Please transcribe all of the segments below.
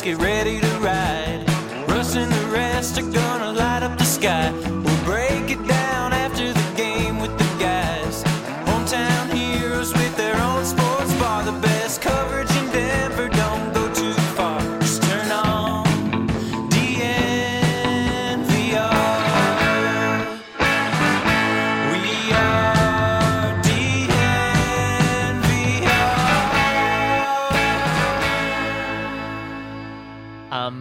get ready to ride. Russ and the rest are gonna light up the sky. We'll break it down after the game with the guys. Hometown heroes with their own sports bar. The best coverage in Denver, don't go too far. Just turn on DNVR. We are DNVR. I'm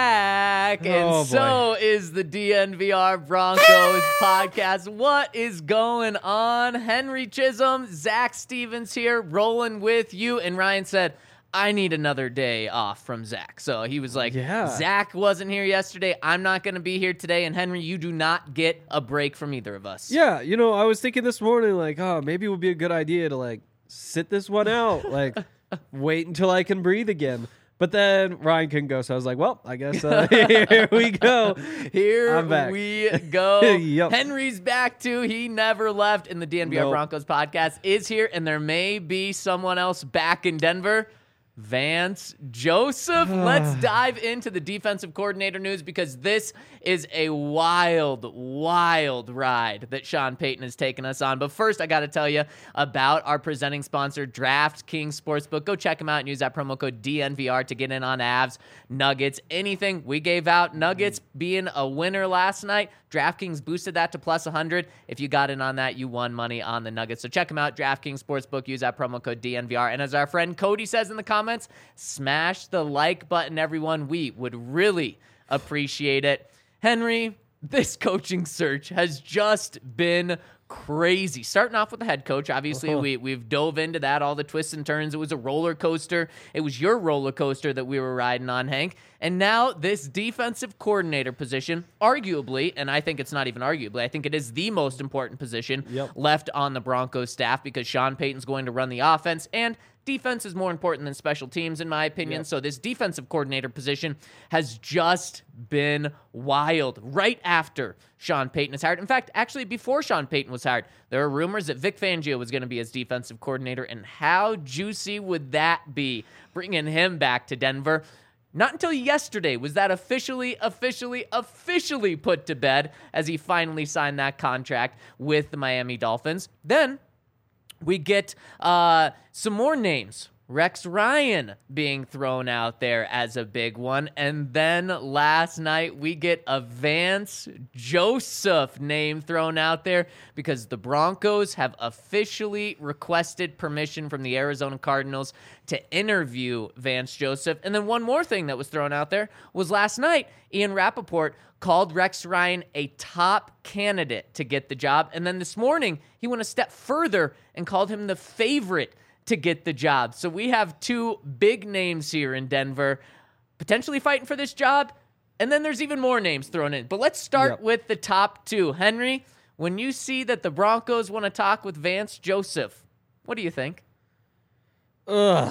back, Oh, and so is the DNVR Broncos podcast. What is going on? Henry Chisholm, Zach Stevens here, rolling with you. And Ryan said, I need another day off from Zach. So he was like, Yeah. Zach wasn't here yesterday. I'm not going to be here today. And Henry, you do not get a break from either of us. Yeah, you know, I was thinking this morning, like, oh, maybe it would be a good idea to, like, sit this one out, like, wait until I can breathe again. But then Ryan couldn't go, so I was like, well, I guess here we go. Here I'm back. we go. Yep. Henry's back too. He never left, and the DNVR Nope. Broncos podcast is here, and there may be someone else back in Denver. Vance Joseph. Let's dive into the defensive coordinator news because this is a wild, wild ride that Sean Payton has taken us on. But first, I got to tell you about our presenting sponsor, DraftKings Sportsbook. Go check them out and use that promo code DNVR to get in on Avs, Nuggets, anything. We gave out Nuggets being a winner last night. DraftKings boosted that to plus 100. If you got in on that, you won money on the Nuggets. So check them out, DraftKings Sportsbook. Use that promo code DNVR. And as our friend Cody says in the comments, smash the like button, everyone. We would really appreciate it. Henry, this coaching search has just been crazy. Starting off with the head coach, obviously we've dove into that, all the twists and turns. It was a roller coaster. It was your roller coaster that we were riding on, Hank. And now this defensive coordinator position, arguably, and I think it's not even arguably, I think it is the most important position left on the Broncos staff because Sean Payton's going to run the offense, and defense is more important than special teams, in my opinion. So this defensive coordinator position has just been wild right after Sean Payton is hired. In fact, actually before Sean Payton was hired, there were rumors that Vic Fangio was going to be his defensive coordinator, and how juicy would that be, bringing him back to Denver? Not until yesterday was that officially put to bed as he finally signed that contract with the Miami Dolphins. Then we get some more names. Rex Ryan being thrown out there as a big one. And then last night we get a Vance Joseph name thrown out there because the Broncos have officially requested permission from the Arizona Cardinals to interview Vance Joseph. And then one more thing that was thrown out there was last night, Ian Rappaport called Rex Ryan a top candidate to get the job. And then this morning, he went a step further and called him the favorite to get the job. So we have two big names here in Denver potentially fighting for this job. And then there's even more names thrown in. But let's start with the top two. Henry, when you see that the Broncos want to talk with Vance Joseph, what do you think? No,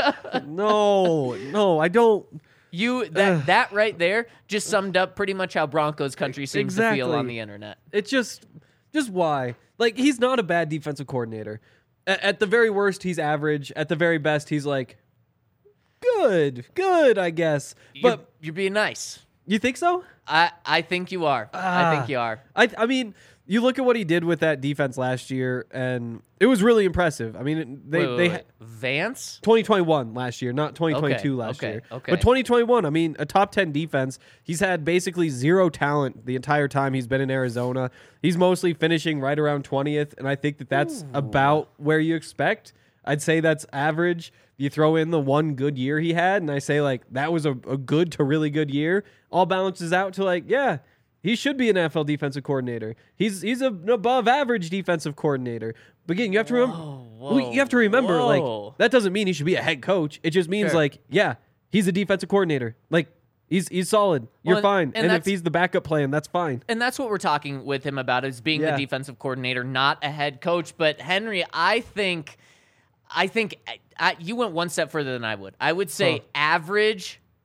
I don't. That right there just summed up pretty much how Broncos country seems to feel on the internet. It's just why. Like, he's not a bad defensive coordinator. At the very worst, he's average. At the very best, he's like, good, I guess. But You're being nice. You think so? I think you are. I think you are. I mean, you look at what he did with that defense last year, and it was really impressive. I mean, they Vance 2021 last year, not 2022 last year. Okay. But 2021, I mean, a top 10 defense. He's had basically zero talent the entire time he's been in Arizona. He's mostly finishing right around 20th, and I think that's about where you expect. I'd say that's average. You throw in the one good year he had, and I say, like, that was a good to really good year. All balances out to, like, yeah, he should be an NFL defensive coordinator. He's an above average defensive coordinator. But again, you have to remember, like, that doesn't mean he should be a head coach. It just means, like, yeah, he's a defensive coordinator. Like, he's solid. You're fine. And if he's the backup plan, that's fine. And that's what we're talking with him about, is being the defensive coordinator, not a head coach. But Henry, I think you went one step further than I would. I would say average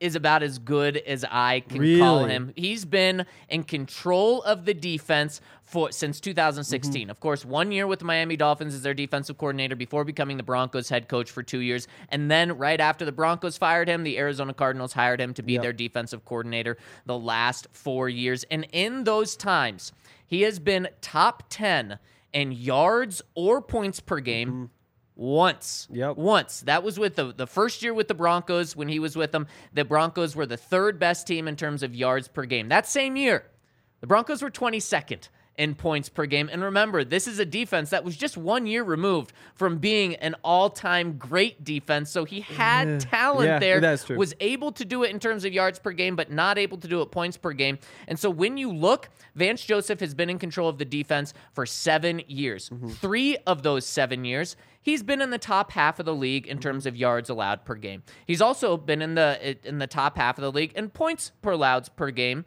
is about as good as I can call Really? him. He's been in control of the defense since 2016. Of course, 1 year with the Miami Dolphins as their defensive coordinator before becoming the Broncos head coach for 2 years. And then right after the Broncos fired him, the Arizona Cardinals hired him to be their defensive coordinator the last 4 years. And in those times, he has been top 10 in yards or points per game once. Once. That was with the first year with the Broncos when he was with them. The Broncos were the third best team in terms of yards per game. That same year, the Broncos were 22nd in points per game. And remember, this is a defense that was just 1 year removed from being an all-time great defense. So he had talent there, that's true. was able to do it in terms of yards per game, but not able to do it points per game. And so when you look, Vance Joseph has been in control of the defense for 7 years. 3 of those 7 years, he's been in the top half of the league in terms of yards allowed per game. He's also been in the top half of the league in points per allowed per game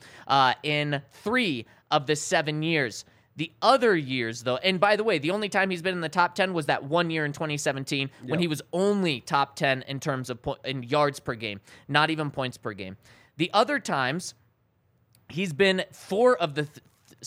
in 3 of the 7 years. The other years, though, and by the way, the only time he's been in the top 10 was that 1 year in 2017 when he was only top 10 in terms of in yards per game, not even points per game. The other times, he's been 4 of the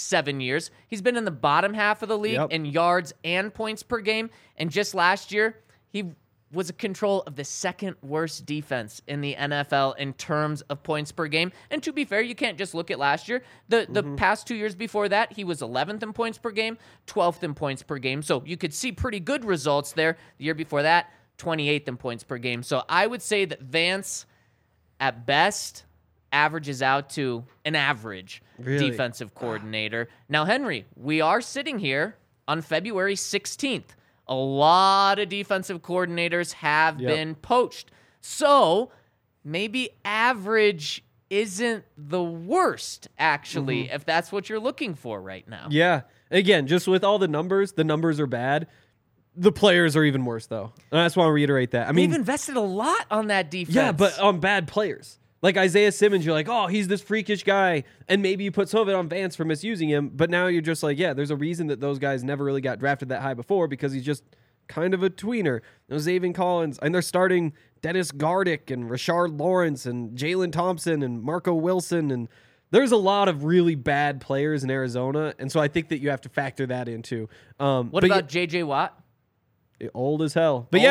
7 years. He's been in the bottom half of the league in yards and points per game. And just last year, he was in control of the second worst defense in the NFL in terms of points per game. And to be fair, you can't just look at last year. The past 2 years before that, he was 11th in points per game, 12th in points per game. So you could see pretty good results there. The year before that, 28th in points per game. So I would say that Vance, at best, averages out to an average defensive coordinator. Now, Henry, we are sitting here on February 16th. A lot of defensive coordinators have been poached. So maybe average isn't the worst, actually, if that's what you're looking for right now. Yeah. Again, just with all the numbers are bad. The players are even worse, though. And I just want to reiterate that. I mean, they've invested a lot on that defense. Yeah, but on bad players. Like Isaiah Simmons, you're like, oh, he's this freakish guy. And maybe you put some of it on Vance for misusing him. But now you're just like, yeah, there's a reason that those guys never really got drafted that high before because he's just kind of a tweener. Zaven Collins. And they're starting Dennis Gardick and Rashard Lawrence and Jalen Thompson and Marco Wilson. And there's a lot of really bad players in Arizona. And so I think that you have to factor that in too. What about J.J. Watt? Old as hell. But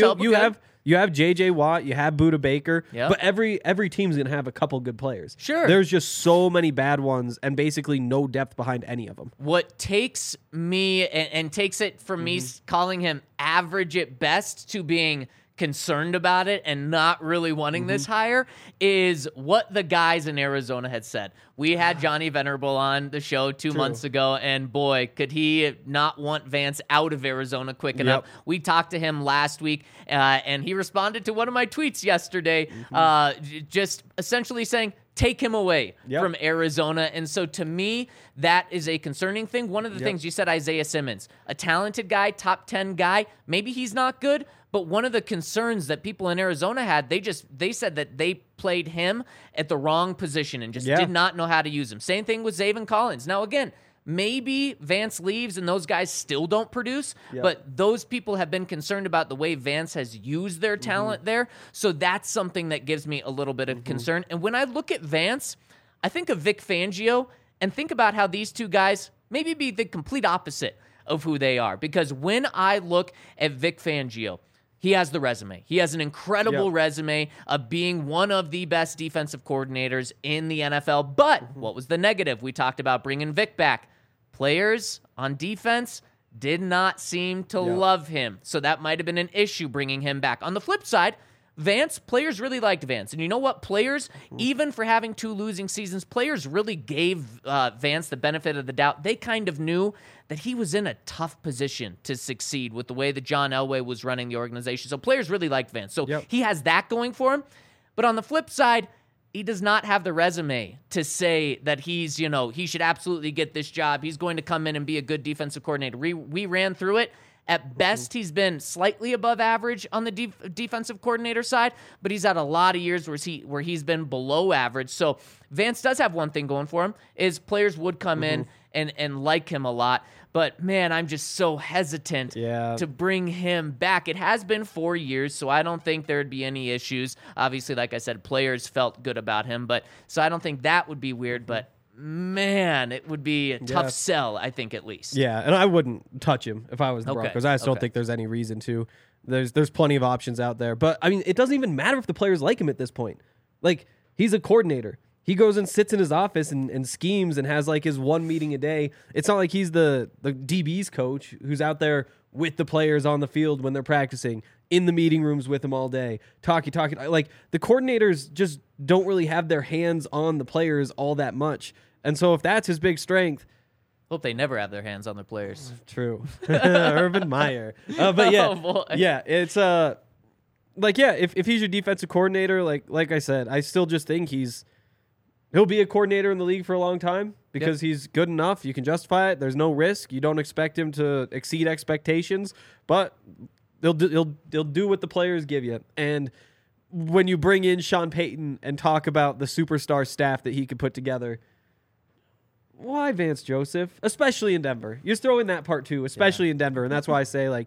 you have J.J. Watt, you have Budda Baker, but every team's going to have a couple good players. Sure. There's just so many bad ones and basically no depth behind any of them. What takes me and takes it from me calling him average at best to being concerned about it and not really wanting this higher is what the guys in Arizona had said. We had Johnny Venerable on the show 2 months ago, and boy, could he not want Vance out of Arizona quick enough. We talked to him last week, and he responded to one of my tweets yesterday, just essentially saying, take him away from Arizona. And so to me, that is a concerning thing. One of the things you said, Isaiah Simmons, a talented guy, top 10 guy, maybe he's not good, but one of the concerns that people in Arizona had, they said that they played him at the wrong position and just did not know how to use him. Same thing with Zaven Collins. Now, again, maybe Vance leaves and those guys still don't produce, but those people have been concerned about the way Vance has used their talent there. So that's something that gives me a little bit of concern. And when I look at Vance, I think of Vic Fangio and think about how these two guys maybe be the complete opposite of who they are. Because when I look at Vic Fangio, he has the resume. He has an incredible resume of being one of the best defensive coordinators in the NFL. But what was the negative? We talked about bringing Vic back. Players on defense did not seem to love him. So that might have been an issue bringing him back. On the flip side, Vance, players really liked Vance. And you know what? Players, even for having 2 losing seasons, players really gave Vance the benefit of the doubt. They kind of knew that he was in a tough position to succeed with the way that John Elway was running the organization. So players really liked Vance. So he has that going for him. But on the flip side, he does not have the resume to say that he's, he should absolutely get this job. He's going to come in and be a good defensive coordinator. We ran through it. At best, he's been slightly above average on the defensive coordinator side, but he's had a lot of years where he's been below average. So Vance does have one thing going for him, is players would come in and like him a lot. But man, I'm just so hesitant to bring him back. It has been 4 years, so I don't think there'd be any issues. Obviously, like I said, players felt good about him, but so I don't think that would be weird. But man, it would be a tough sell, I think, at least. Yeah, and I wouldn't touch him if I was the Broncos. I just don't think there's any reason to. There's plenty of options out there. But, I mean, it doesn't even matter if the players like him at this point. Like, he's a coordinator. He goes and sits in his office and schemes and has like his one meeting a day. It's not like he's the DB's coach who's out there with the players on the field when they're practicing, in the meeting rooms with them all day, talking. Like, the coordinators just don't really have their hands on the players all that much. And so if that's his big strength, hope they never have their hands on the players. True. Urban Meyer. But yeah, it's if he's your defensive coordinator, like I said, I still just think he'll be a coordinator in the league for a long time because he's good enough. You can justify it. There's no risk. You don't expect him to exceed expectations, but they'll do what the players give you. And when you bring in Sean Payton and talk about the superstar staff that he could put together, why Vance Joseph? Especially in Denver. You're throwing that part too, especially in Denver. And that's why I say, like,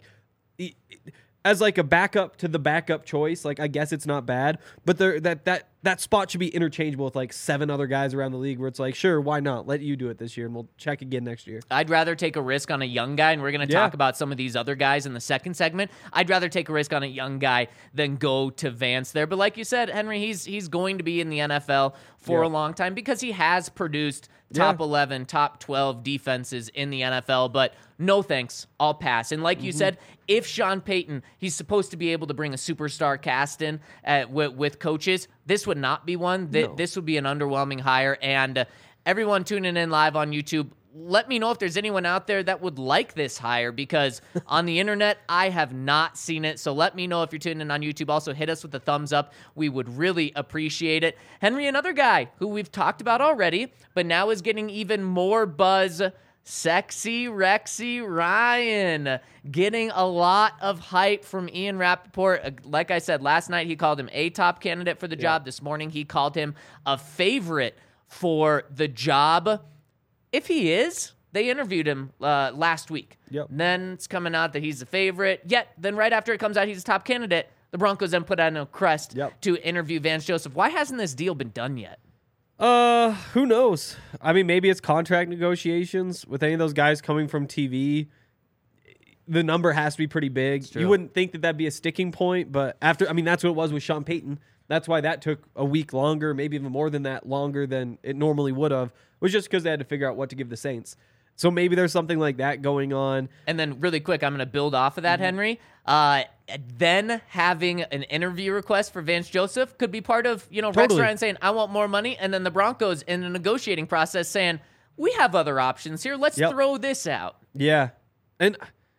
as like a backup to the backup choice, like, I guess it's not bad, but that spot should be interchangeable with like 7 other guys around the league where it's like, sure, why not? Let you do it this year and we'll check again next year. I'd rather take a risk on a young guy, and we're going to talk about some of these other guys in the second segment. I'd rather take a risk on a young guy than go to Vance there. But like you said, Henry, he's going to be in the NFL for a long time because he has produced top 11, top 12 defenses in the NFL, but no thanks, I'll pass. And like you said, if Sean Payton, he's supposed to be able to bring a superstar cast in with coaches, this would not be one. This would be an underwhelming hire. And everyone tuning in live on YouTube, let me know if there's anyone out there that would like this hire, because on the internet, I have not seen it. So let me know if you're tuning in on YouTube. Also, hit us with a thumbs up. We would really appreciate it. Henry, another guy who we've talked about already, but now is getting even more buzz. Sexy Rexy Ryan getting a lot of hype from Ian Rappaport. Like I said, last night he called him a top candidate for the job. This morning he called him a favorite for the job. If he is, they interviewed him last week. Then it's coming out that he's a favorite. Yet, then right after it comes out he's a top candidate, the Broncos then put out a crest to interview Vance Joseph. Why hasn't this deal been done yet? Who knows? I mean, maybe it's contract negotiations with any of those guys coming from TV. The number has to be pretty big. You wouldn't think that that'd be a sticking point, but that's what it was with Sean Payton. That's why that took a week longer, maybe even more than that, longer than it normally would have. It was just because they had to figure out what to give the Saints. So maybe there's something like that going on. And then really quick, I'm going to build off of that, Henry. Then having an interview request for Vance Joseph could be part of, Rex Ryan saying, I want more money. And then the Broncos in the negotiating process saying, we have other options here. Let's throw this out. Yeah. And,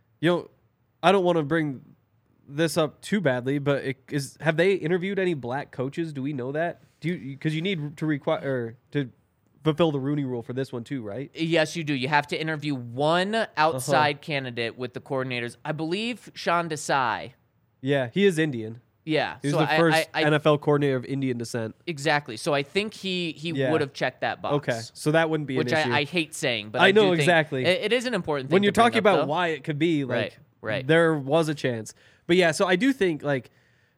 I don't want to bring this up too badly, but have they interviewed any black coaches? Do we know that? Because you need to require to fulfill the Rooney Rule for this one too, right? Yes, you do. You have to interview one outside candidate with the coordinators. I believe Sean Desai. Yeah, he is Indian. Yeah. He was the first NFL coordinator of Indian descent. Exactly. So I think he would have checked that box. Okay, so that wouldn't be an issue. Which I hate saying, but I know do think exactly. It is an important thing when you're to bring talking up, about though. why it could be, like, right. There was a chance. But yeah, so I do think, like,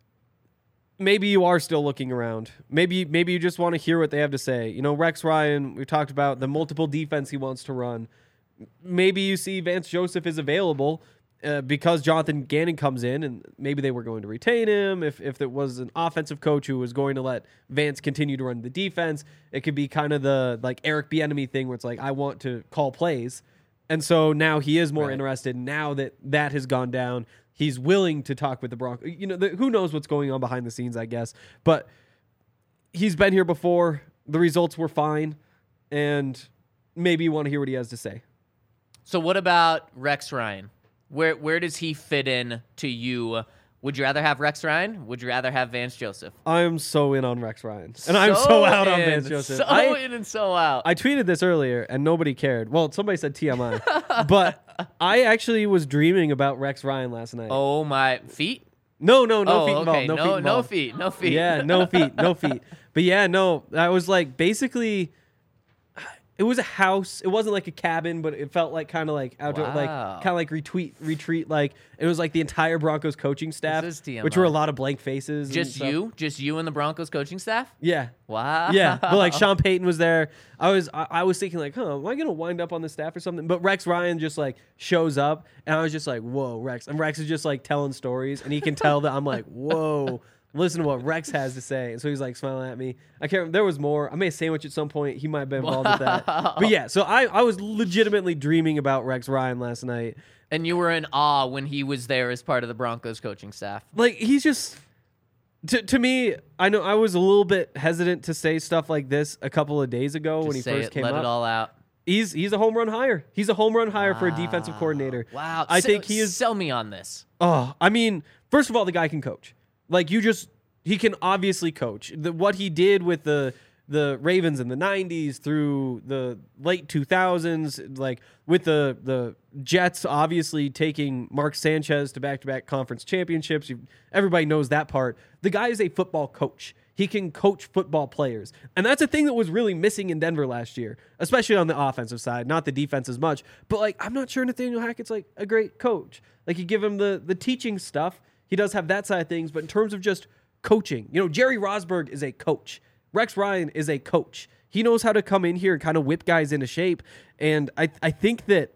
maybe you are still looking around. Maybe you just want to hear what they have to say. Rex Ryan, we talked about the multiple defense he wants to run. Maybe you see Vance Joseph is available because Jonathan Gannon comes in, and maybe they were going to retain him. If there was an offensive coach who was going to let Vance continue to run the defense, it could be kind of the like Eric Bieniemy thing where it's like, I want to call plays. And so now he is more interested. Now that has gone down, he's willing to talk with the Broncos. Who knows what's going on behind the scenes, I guess. But he's been here before. The results were fine. And maybe you want to hear what he has to say. So what about Rex Ryan? Where does he fit in to you? Would you rather have Rex Ryan? Would you rather have Vance Joseph? I'm so in on Rex Ryan. And I'm so out on Vance Joseph. So in and so out. I tweeted this earlier, and nobody cared. Well, somebody said TMI. But I actually was dreaming about Rex Ryan last night. Oh, my. Feet? No feet involved. No feet. Yeah, no feet. But yeah, no. I was like, basically, It was a house. It wasn't like a cabin, but it felt like kind of like outdoor, like Wow. kind of like retreat. Like it was like the entire Broncos coaching staff, This is TMI. which were a lot of blank faces. and Just stuff. you and the Broncos coaching staff? Yeah. Wow. Yeah, but like Sean Payton was there. I was thinking like, am I gonna wind up on the staff or something? But Rex Ryan just like shows up, and I was just like, whoa, Rex. And Rex is just like telling stories, and he can tell that I'm like, whoa. Listen to what Rex has to say. And so he's like smiling at me. I can't remember. There was more. I made a sandwich at some point. He might have been involved with that. But yeah, so I was legitimately dreaming about Rex Ryan last night. And you were in awe when he was there as part of the Broncos coaching staff. Like he's just to me, I know I was a little bit hesitant to say stuff like this a couple of days ago when he Just say first it, came let up. it all out. He's a home run hire. He's a home run hire for a defensive coordinator. Wow. I think he is. Sell me on this. Oh, I mean, first of all, the guy can coach. Like he can obviously coach. What he did with the Ravens in the 90s through the late 2000s, like with the Jets obviously taking Mark Sanchez to back-to-back conference championships. Everybody knows that part. The guy is a football coach. He can coach football players. And that's a thing that was really missing in Denver last year, especially on the offensive side, not the defense as much. But like, I'm not sure Nathaniel Hackett's like a great coach. Like you give him the teaching stuff. He does have that side of things, but in terms of just coaching, Jerry Rosburg is a coach. Rex Ryan is a coach. He knows how to come in here and kind of whip guys into shape. And I think that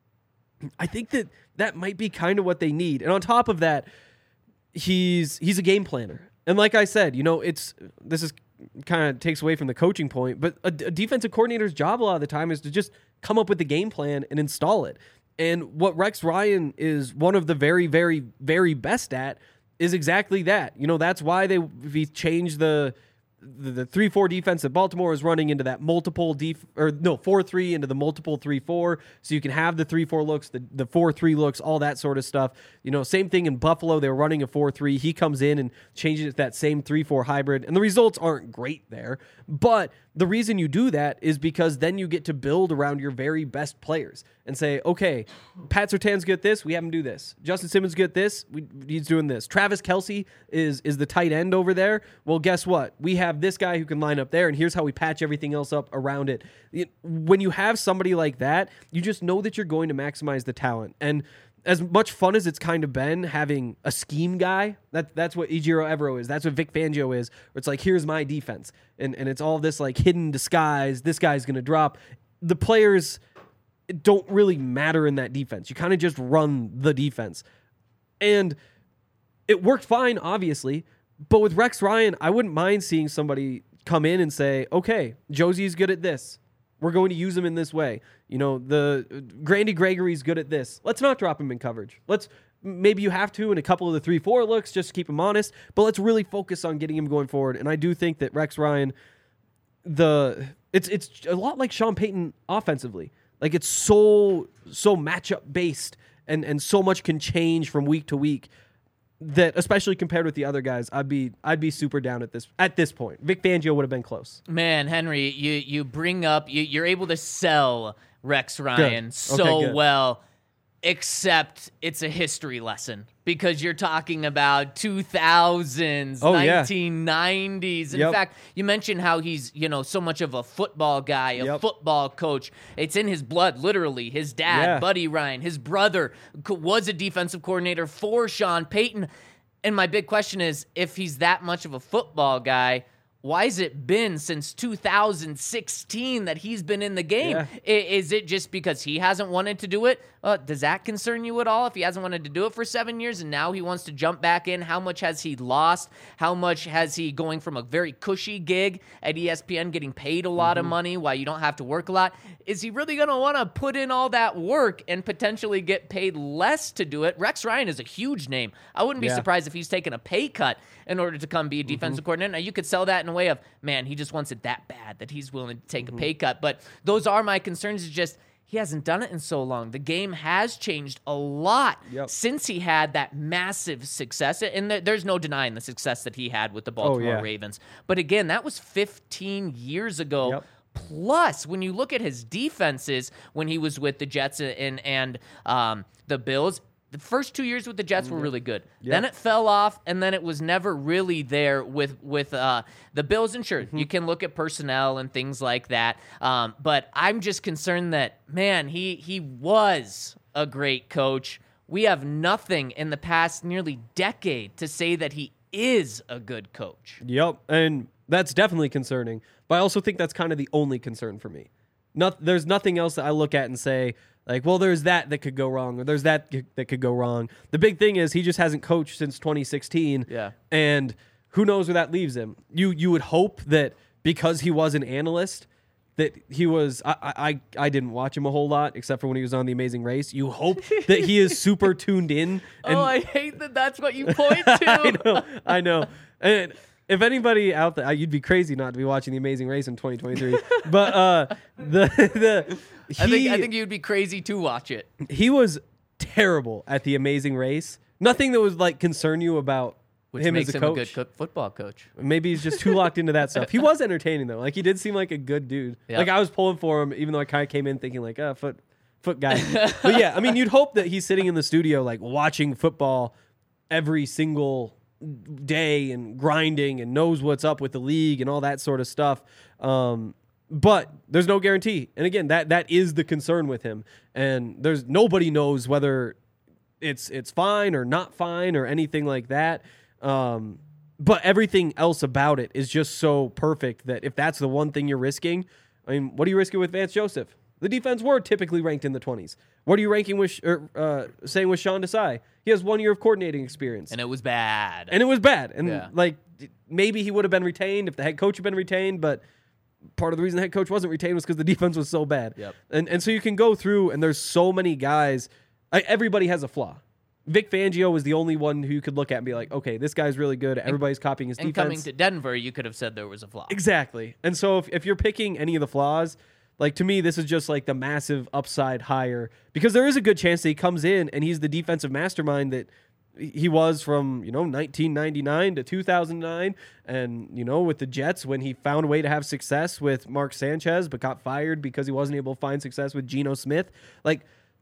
might be kind of what they need. And on top of that, he's a game planner. And like I said, this is kind of takes away from the coaching point, but a defensive coordinator's job a lot of the time is to just come up with the game plan and install it. And what Rex Ryan is one of the very, very, very best at is exactly that. That's why we changed the 3-4 defense that Baltimore is running into that multiple 4-3 into the multiple 3-4, so you can have the 3-4 looks, the 4-3 looks, all that sort of stuff. Same thing in Buffalo. They were running a 4-3. He comes in and changes it to that same 3-4 hybrid, and the results aren't great there. But the reason you do that is because then you get to build around your very best players and say, okay, Pat Surtain's good at this, we have him do this. Justin Simmons good at this, he's doing this. Travis Kelce is the tight end over there. Well, guess what? We have this guy who can line up there, and here's how we patch everything else up around it. When you have somebody like that, you just know that you're going to maximize the talent. And as much fun as it's kind of been having a scheme guy, that's what Ejiro Evero is. That's what Vic Fangio is. Where it's like, here's my defense. And it's all this like hidden disguise. This guy's going to drop. The players don't really matter in that defense. You kind of just run the defense. And it worked fine, obviously. But with Rex Ryan, I wouldn't mind seeing somebody come in and say, okay, Josie's good at this. We're going to use him in this way. The Grandy Gregory's good at this. Let's not drop him in coverage. Maybe you have to in a couple of the 3-4 looks just to keep him honest, but let's really focus on getting him going forward. And I do think that Rex Ryan, it's a lot like Sean Payton offensively. Like it's so matchup based and so much can change from week to week that, especially compared with the other guys, I'd be super down at this point. Vic Fangio would have been close. Man, Henry, you bring up you're able to sell Rex Ryan Good. well, except it's a history lesson because you're talking about 2000s, 1990s. In fact, you mentioned how he's, so much of a football guy, a football coach. It's in his blood, literally. His dad, Buddy Ryan, his brother was a defensive coordinator for Sean Payton. And my big question is, if he's that much of a football guy, why has it been since 2016 that he's been in the game? Yeah. Is it just because he hasn't wanted to do it? Does that concern you at all if he hasn't wanted to do it for 7 years and now he wants to jump back in? How much has he lost? How much has he going from a very cushy gig at ESPN getting paid a lot of money while you don't have to work a lot? Is he really going to want to put in all that work and potentially get paid less to do it? Rex Ryan is a huge name. I wouldn't be surprised if he's taken a pay cut in order to come be a defensive coordinator. Now, you could sell that in a way of, man, he just wants it that bad that he's willing to take a pay cut. But those are my concerns. It's just he hasn't done it in so long. The game has changed a lot since he had that massive success. And there's no denying the success that he had with the Baltimore Ravens. But again, that was 15 years ago. Plus, when you look at his defenses when he was with the Jets and the Bills, The first 2 years with the Jets were really good. Yep. Then it fell off, and then it was never really there with the Bills. And sure, you can look at personnel and things like that. But I'm just concerned that, man, he was a great coach. We have nothing in the past nearly decade to say that he is a good coach. Yep, and that's definitely concerning. But I also think that's kind of the only concern for me. There's nothing else that I look at and say, like, well, there's that could go wrong, or there's that could go wrong. The big thing is he just hasn't coached since 2016. Yeah. And who knows where that leaves him. You would hope that because he was an analyst, that he was, I didn't watch him a whole lot, except for when he was on The Amazing Race. You hope that he is super tuned in. And I hate that that's what you point to. I know. And if anybody out there, you'd be crazy not to be watching The Amazing Race in 2023. But I think you'd be crazy to watch it. He was terrible at The Amazing Race. Nothing that was like concern you about Which him makes as a him coach. a good football coach. Maybe he's just too locked into that stuff. He was entertaining though. Like he did seem like a good dude. Yeah. Like I was pulling for him, even though I kind of came in thinking like, foot guy. But yeah, I mean, you'd hope that he's sitting in the studio like watching football every single day and grinding and knows what's up with the league and all that sort of stuff. But there's no guarantee. And again, that is the concern with him. And nobody knows whether it's fine or not fine or anything like that. But everything else about it is just so perfect that if that's the one thing you're risking, I mean, what are you risking with Vance Joseph? The defense were typically ranked in the 20s. What are you ranking with saying with Sean Desai? He has 1 year of coordinating experience. And it was bad. And Yeah. like maybe he would have been retained if the head coach had been retained, but part of the reason the head coach wasn't retained was because the defense was so bad. Yep. And so you can go through and there's so many guys. Everybody has a flaw. Vic Fangio was the only one who you could look at and be like, okay, this guy's really good. Everybody's copying his and defense. coming to Denver, you could have said there was a flaw. Exactly. And so if you're picking any of the flaws, like to me, this is just like the massive upside higher because there is a good chance that he comes in and he's the defensive mastermind that he was from, 1999 to 2009. And, with the Jets when he found a way to have success with Mark Sanchez, but got fired because he wasn't able to find success with Geno Smith. Like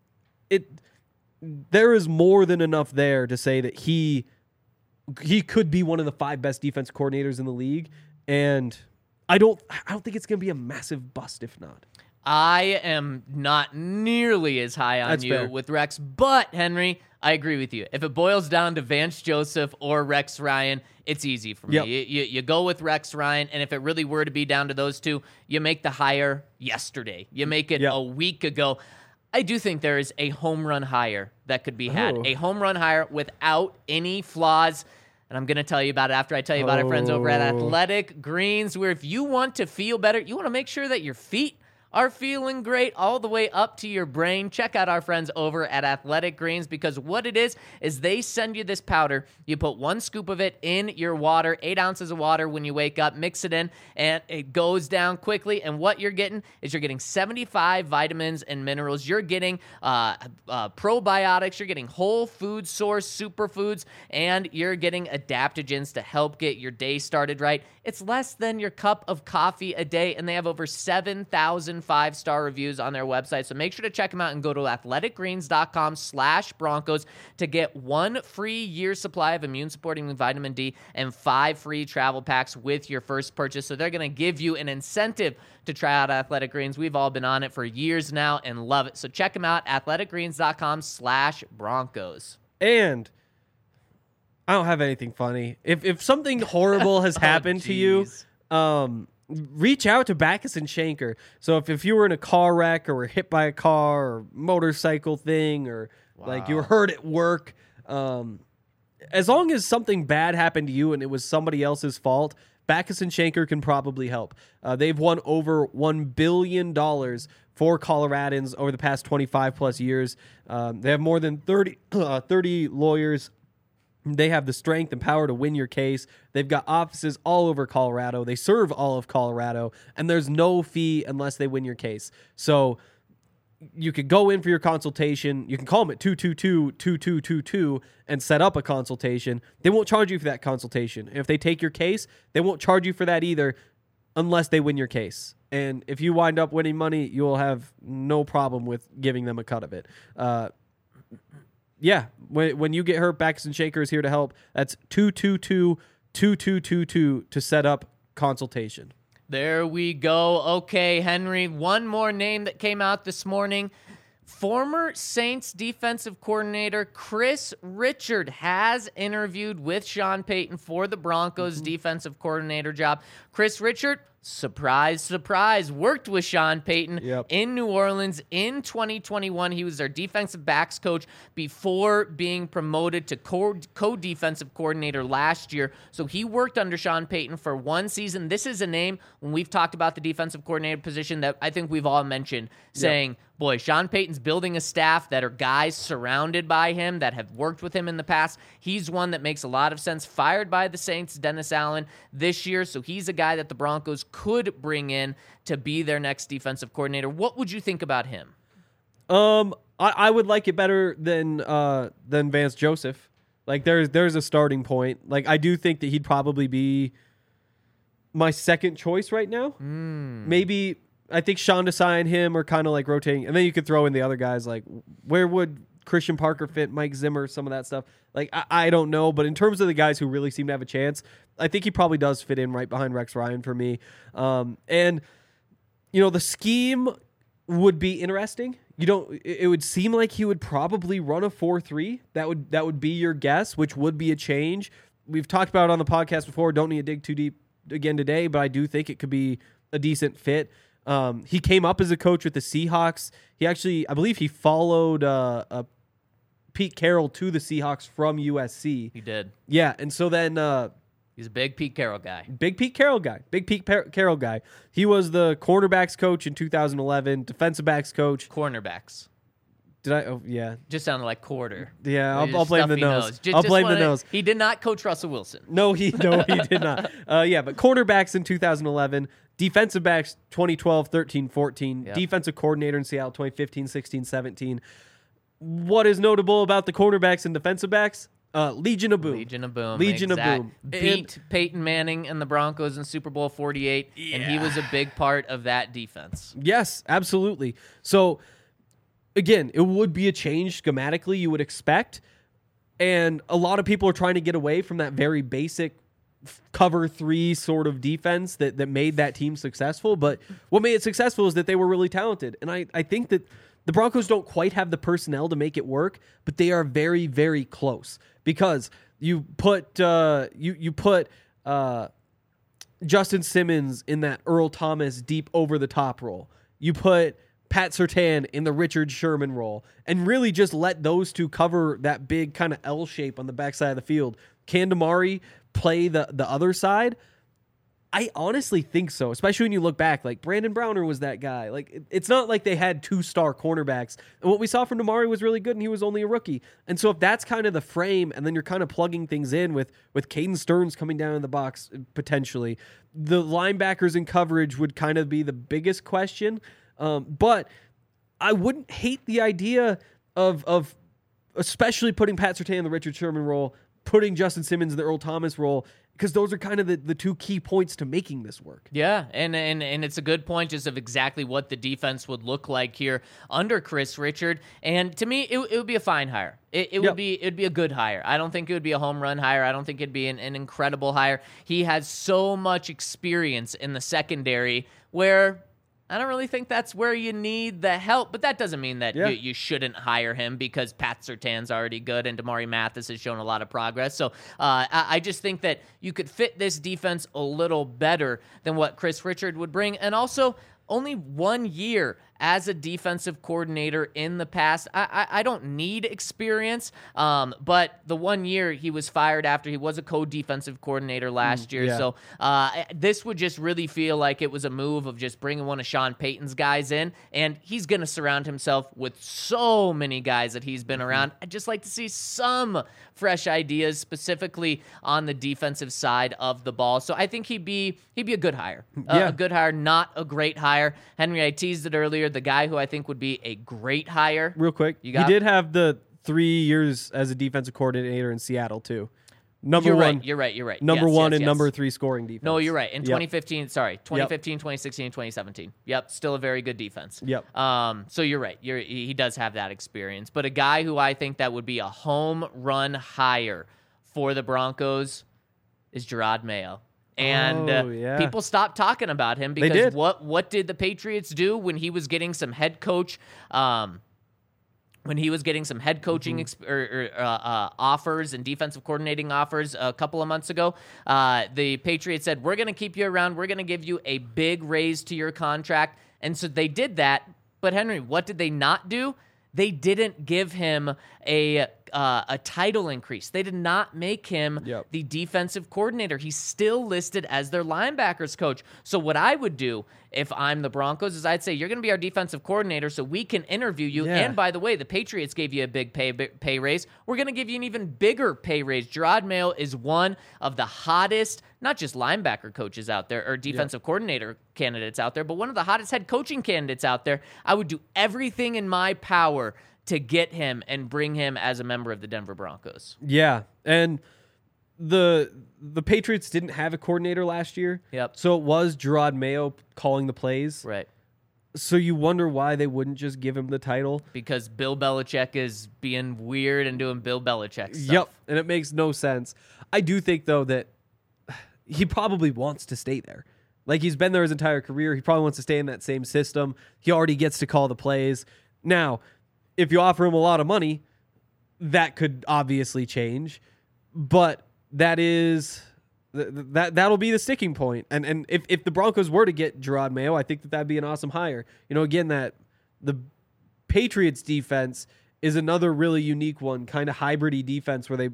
there is more than enough there to say that he could be one of the 5 best defense coordinators in the league. And I don't think it's going to be a massive bust if not. I am not nearly as high on That's you fair. with Rex, but Henry, I agree with you. If it boils down to Vance Joseph or Rex Ryan, it's easy for me. Yep. You go with Rex Ryan, and if it really were to be down to those two, you make the hire yesterday. You make it Yep. a week ago. I do think there is a home run hire that could be had. Oh. A home run hire without any flaws. And I'm going to tell you about it after I tell you about our friends over at Oh. Athletic Greens, where if you want to feel better, you want to make sure that your feet are feeling great all the way up to your brain. Check out our friends over at Athletic Greens because what it is they send you this powder. You put 1 scoop of it in your water, 8 ounces of water when you wake up, mix it in, and it goes down quickly. And what you're getting is you're getting 75 vitamins and minerals. You're getting probiotics. You're getting whole food source superfoods, and you're getting adaptogens to help get your day started right. It's less than your cup of coffee a day, and they have over 7,000 5-star reviews on their website. So make sure to check them out and go to athleticgreens.com/Broncos to get 1 free year supply of immune-supporting vitamin D and 5 free travel packs with your first purchase. So they're going to give you an incentive to try out Athletic Greens. We've all been on it for years now and love it. So check them out, athleticgreens.com/Broncos. And I don't have anything funny. If something horrible has happened to you, reach out to Backus and Shanker. So if you were in a car wreck or were hit by a car or motorcycle thing or like you were hurt at work, as long as something bad happened to you and it was somebody else's fault, Backus and Shanker can probably help. They've won over $1 billion for Coloradans over the past 25 plus years. They have more than 30 lawyers. They have the strength and power to win your case. They've got offices all over Colorado. They serve all of Colorado, and there's no fee unless they win your case. So you could go in for your consultation. You can call them at 222-2222 and set up a consultation. They won't charge you for that consultation. And if they take your case, they won't charge you for that either unless they win your case. And if you wind up winning money, you'll have no problem with giving them a cut of it. Yeah, when you get hurt, Baxton Shaker is here to help. That's 222-2222 to set up consultation. There we go. Okay, Henry, one more name that came out this morning. Former Saints defensive coordinator Chris Richard has interviewed with Sean Payton for the Broncos defensive coordinator job. Chris Richard, surprise, surprise, worked with Sean Payton in New Orleans in 2021. He was their defensive backs coach before being promoted to co-defensive coordinator last year. So he worked under Sean Payton for one season. This is a name, when we've talked about the defensive coordinator position, that I think we've all mentioned, saying, boy, Sean Payton's building a staff that are guys surrounded by him that have worked with him in the past. He's one that makes a lot of sense. Fired by the Saints, Dennis Allen, this year. So he's a guy that the Broncos could bring in to be their next defensive coordinator. What would you think about him? I would like it better than Vance Joseph. Like there's a starting point. Like I do think that he'd probably be my second choice right now. Maybe I think Sean Desai and him are kind of like rotating, and then you could throw in the other guys. Like where would Christian Parker fit? Mike Zimmer, some of that stuff. Like I don't know, but in terms of the guys who really seem to have a chance, I think he probably does fit in right behind Rex Ryan for me. And the scheme would be interesting. It would seem like he would probably run a 4-3. That would be your guess, which would be a change. We've talked about it on the podcast before. Don't need to dig too deep again today, but I do think it could be a decent fit. He came up as a coach with the Seahawks. He actually, I believe he followed Pete Carroll to the Seahawks from USC. He did. Yeah, and so then he's a big Pete Carroll guy. Big Pete Carroll guy. He was the cornerbacks coach in 2011, defensive backs coach. Cornerbacks. Did I? Oh, yeah. Just sounded like quarter. Yeah, I'll blame the nose. Just I'll blame the nose. He did not coach Russell Wilson. No, he did not. Yeah, but cornerbacks in 2011, defensive backs 2012, 13, 14, defensive coordinator in Seattle 2015, 16, 17. What is notable about the cornerbacks and defensive backs? Legion of Boom. Legion of Boom. Legion of Boom. Beat Peyton Manning and the Broncos in Super Bowl 48, and he was a big part of that defense. Yes, absolutely. So, again, it would be a change schematically, you would expect, and a lot of people are trying to get away from that very basic cover 3 sort of defense that made that team successful. But what made it successful is that they were really talented, and I think that the Broncos don't quite have the personnel to make it work, but they are very, very close because you put Justin Simmons in that Earl Thomas deep over the top role. You put Pat Surtain in the Richard Sherman role and really just let those two cover that big kind of L shape on the backside of the field. Can Damari play the other side? I honestly think so, especially when you look back. Like, Brandon Browner was that guy. Like, it's not like they had 2-star cornerbacks. And what we saw from Damari was really good, and he was only a rookie. And so if that's kind of the frame, and then you're kind of plugging things in with Caden Stearns coming down in the box, potentially, the linebackers in coverage would kind of be the biggest question. But I wouldn't hate the idea of especially putting Pat Surtain in the Richard Sherman role, putting Justin Simmons in the Earl Thomas role, because those are kind of the two key points to making this work. Yeah, and it's a good point just of exactly what the defense would look like here under Chris Richard. And to me, it would be a fine hire. It'd be a good hire. I don't think it would be a home run hire. I don't think it'd be an incredible hire. He has so much experience in the secondary where I don't really think that's where you need the help, but that doesn't mean that you shouldn't hire him because Pat Surtain's already good and Damari Mathis has shown a lot of progress. So I just think that you could fit this defense a little better than what Chris Richard would bring. And also, only 1 year as a defensive coordinator in the past. I don't need experience, but the 1 year he was fired after he was a co-defensive coordinator last year. Yeah. So this would just really feel like it was a move of just bringing one of Sean Payton's guys in, and he's going to surround himself with so many guys that he's been around. I'd just like to see some fresh ideas, specifically on the defensive side of the ball. So I think he'd be a good hire. A good hire, not a great hire. Henry, I teased it earlier. The guy who I think would be a great hire. Real quick, he did have the 3 years as a defensive coordinator in Seattle too. Number You're one. right. You're right. You're right. Number Yes, one yes, and yes. number 3 scoring defense. No, you're right. In Yep. 2015, 2016, 2017. Yep, still a very good defense. Yep. So you're right. He does have that experience. But a guy who I think that would be a home run hire for the Broncos is Gerard Mayo. And yeah. people stopped talking about him They because did. what did the Patriots do when he was getting some head coach when he was getting some head coaching offers and defensive coordinating offers a couple of months ago, the Patriots said, we're going to keep you around. We're going to give you a big raise to your contract. And so they did that. But Henry, what did they not do? They didn't give him a title increase. They did not make him Yep. the defensive coordinator. He's still listed as their linebackers coach. So what I would do if I'm the Broncos is I'd say, you're going to be our defensive coordinator so we can interview you. Yeah. And by the way, the Patriots gave you a big pay raise. We're going to give you an even bigger pay raise. Gerard Mayo is one of the hottest, not just linebacker coaches out there or defensive coordinator candidates out there, but one of the hottest head coaching candidates out there. I would do everything in my power to get him and bring him as a member of the Denver Broncos. Yeah, and the Patriots didn't have a coordinator last year. Yep. So it was Gerard Mayo calling the plays. Right. So you wonder why they wouldn't just give him the title. Because Bill Belichick is being weird and doing Bill Belichick stuff. Yep, and it makes no sense. I do think, though, that he probably wants to stay there. Like, he's been there his entire career. He probably wants to stay in that same system. He already gets to call the plays. Now, if you offer him a lot of money, that could obviously change. But that'll be the sticking point. And if the Broncos were to get Gerard Mayo, I think that'd be an awesome hire. You know, again, that the Patriots defense is another really unique one, kind of hybrid-y defense where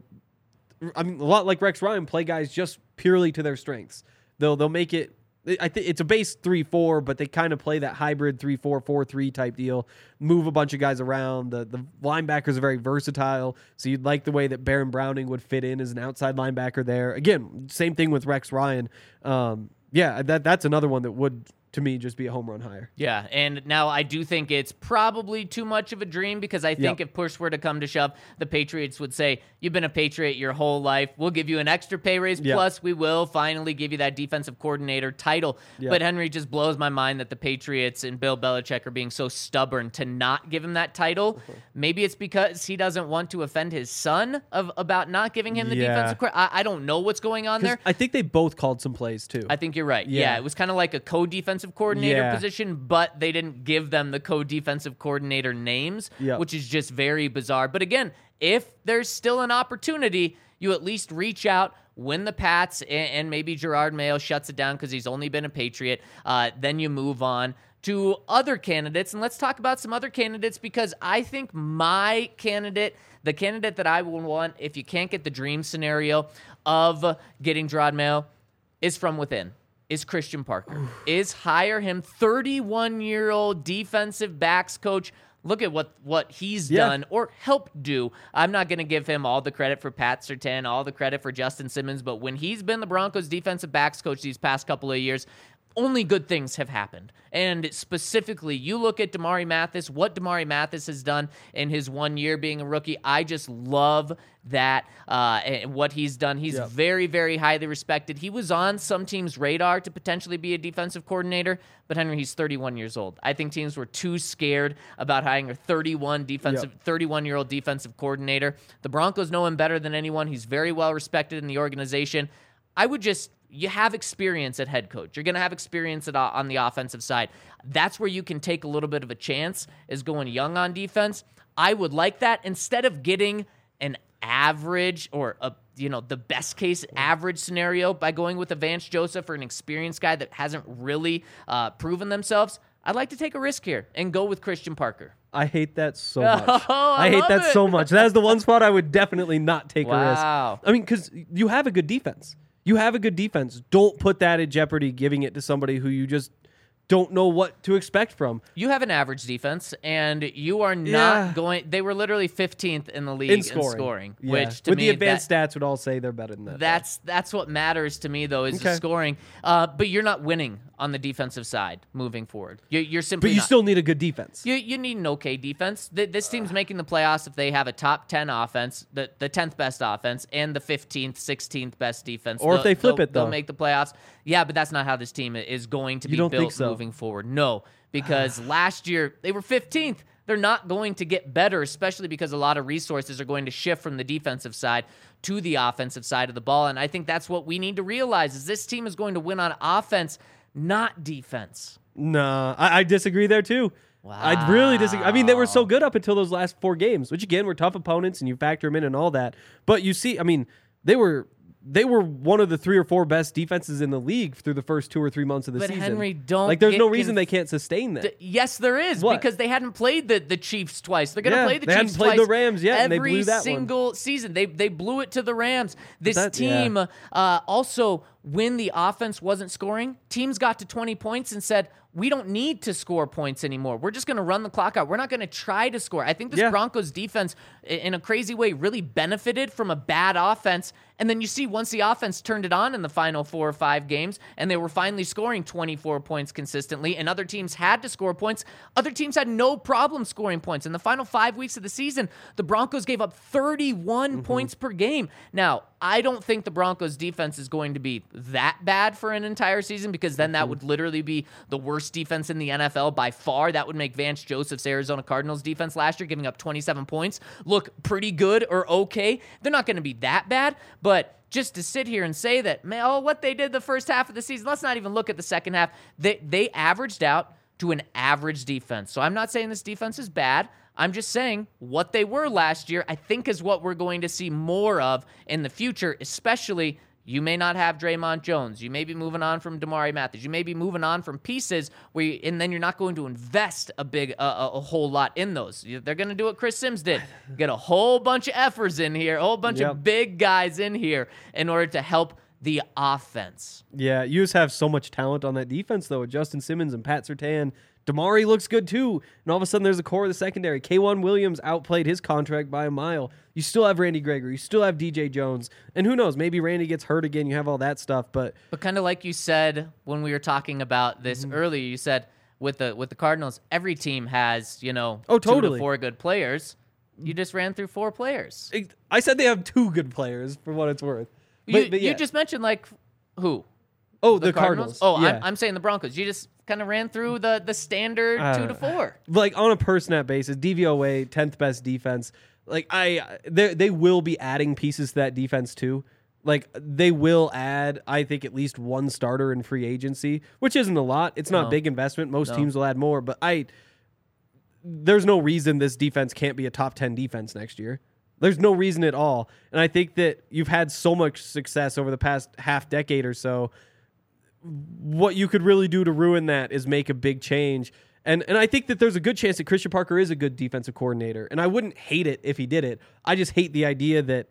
a lot like Rex Ryan, play guys just purely to their strengths. They'll make it. I think it's a base 3-4, but they kind of play that hybrid 3-4, 4-3 type deal. Move a bunch of guys around. The linebackers are very versatile, so you'd like the way that Baron Browning would fit in as an outside linebacker there. Again, same thing with Rex Ryan. That's another one that would, to me, just be a home run hire. Yeah, and now I do think it's probably too much of a dream because I think if push were to come to shove, the Patriots would say, you've been a Patriot your whole life. We'll give you an extra pay raise, plus we will finally give you that defensive coordinator title. But Henry, just blows my mind that the Patriots and Bill Belichick are being so stubborn to not give him that title. Maybe it's because he doesn't want to offend his son about not giving him the defensive coordinator. I don't know what's going on there. I think they both called some plays, too. I think you're right. Yeah, it was kind of like a co-defensive coordinator position, but they didn't give them the co-defensive coordinator names, which is just very bizarre. But again, if there's still an opportunity, you at least reach out, win the Pats, and maybe Gerard Mayo shuts it down because he's only been a Patriot. Then you move on to other candidates, and let's talk about some other candidates because I think my candidate, the candidate that I will want if you can't get the dream scenario of getting Gerard Mayo, is from within. Is Christian Parker. Is hire him, 31-year-old defensive backs coach. Look at what he's done or helped do. I'm not going to give him all the credit for Pat Surtain, all the credit for Justin Simmons, but when he's been the Broncos defensive backs coach these past couple of years, only good things have happened. And specifically, you look at Damari Mathis, what Damari Mathis has done in his 1 year being a rookie. I just love that, what he's done. He's very, very highly respected. He was on some teams' radar to potentially be a defensive coordinator, but Henry, he's 31 years old. I think teams were too scared about hiring a 31-year-old defensive coordinator. The Broncos know him better than anyone. He's very well respected in the organization. You have experience at head coach. You're going to have experience on the offensive side. That's where you can take a little bit of a chance, is going young on defense. I would like that instead of getting an average or the best case average scenario by going with a Vance Joseph or an experienced guy that hasn't really proven themselves. I'd like to take a risk here and go with Christian Parker. I hate that so much. I hate that love it. so much. That is the one spot I would definitely not take a risk. Wow. I mean, because you have a good defense. You have a good defense. Don't put that in jeopardy, giving it to somebody who you just don't know what to expect from. You have an average defense, and you are not Yeah. going. They were literally 15th in the league in scoring, Yeah. which to with me the advanced stats would all say they're better than that. that's what matters to me though is the Okay. scoring. But you're not winning on the defensive side moving forward. You're simply. but you not. still need a good defense. You need an okay defense. This team's making the playoffs if they have a top 10 offense, the 10th best offense, and the 15th, 16th best defense. Or if they flip it, they'll though. make the playoffs. Yeah, but that's not how this team is going to be don't think built so? moving forward. No, because last year they were 15th. They're not going to get better, especially because a lot of resources are going to shift from the defensive side to the offensive side of the ball. And I think that's what we need to realize is this team is going to win on offense, not defense. Nah, I disagree there too. I really disagree. I mean, they were so good up until those last 4 games, which again were tough opponents, and you factor them in and all that. But you see, I mean, they were one of the 3 or 4 best defenses in the league through the first 2 or 3 months of the But season. Henry, don't like. There's get no reason they can't sustain that. Yes, there is, What? because they hadn't played the Chiefs twice. They're going to Yeah, play the they hadn't Chiefs played twice the Rams yet, and they every blew that one. single season. They blew it to the Rams. This yeah. team also, when the offense wasn't scoring, teams got to 20 points and said, we don't need to score points anymore. We're just going to run the clock out. We're not going to try to score. I think this Yeah. Broncos defense, in a crazy way, really benefited from a bad offense. And then you see once the offense turned it on in the final 4 or 5 games, and they were finally scoring 24 points consistently, and other teams had to score points, other teams had no problem scoring points. In the final 5 weeks of the season, the Broncos gave up 31 points per game. Now, I don't think the Broncos defense is going to be that bad for an entire season, because then that would literally be the worst defense in the NFL by far. That would make Vance Joseph's Arizona Cardinals defense last year, giving up 27 points, look pretty good or okay. They're not going to be that bad, but just to sit here and say that, man, what they did the first half of the season, let's not even look at the second half. They averaged out to an average defense. So I'm not saying this defense is bad. I'm just saying what they were last year, I think, is what we're going to see more of in the future, especially you may not have Draymond Jones. You may be moving on from Damari Mathis. You may be moving on from pieces and then you're not going to invest a whole lot in those. They're going to do what Chris Sims did. Get a whole bunch of effers in here, a whole bunch of big guys in here in order to help the offense. Yeah, you just have so much talent on that defense, though, with Justin Simmons and Pat Surtain. Damari looks good, too. And all of a sudden, there's a core of the secondary. K'Wan Williams outplayed his contract by a mile. You still have Randy Gregory. You still have DJ Jones. And who knows, maybe Randy gets hurt again. You have all that stuff. But kind of like you said when we were talking about this earlier, you said with the Cardinals, every team has, 2 to 4 good players. You just ran through 4 players. I said they have 2 good players, for what it's worth. But yeah. You just mentioned, who? Oh, the Cardinals. Oh, yeah. I'm saying the Broncos. You just kind of ran through the standard 2 to 4. Like on a per snap basis, DVOA, 10th best defense. Like they will be adding pieces to that defense too. Like they will add, I think, at least 1 starter in free agency, which isn't a lot. It's not big investment. Most teams will add more, but there's no reason this defense can't be a top 10 defense next year. There's no reason at all. And I think that you've had so much success over the past half decade or so. What you could really do to ruin that is make a big change. And I think that there's a good chance that Christian Parker is a good defensive coordinator. And I wouldn't hate it if he did it. I just hate the idea that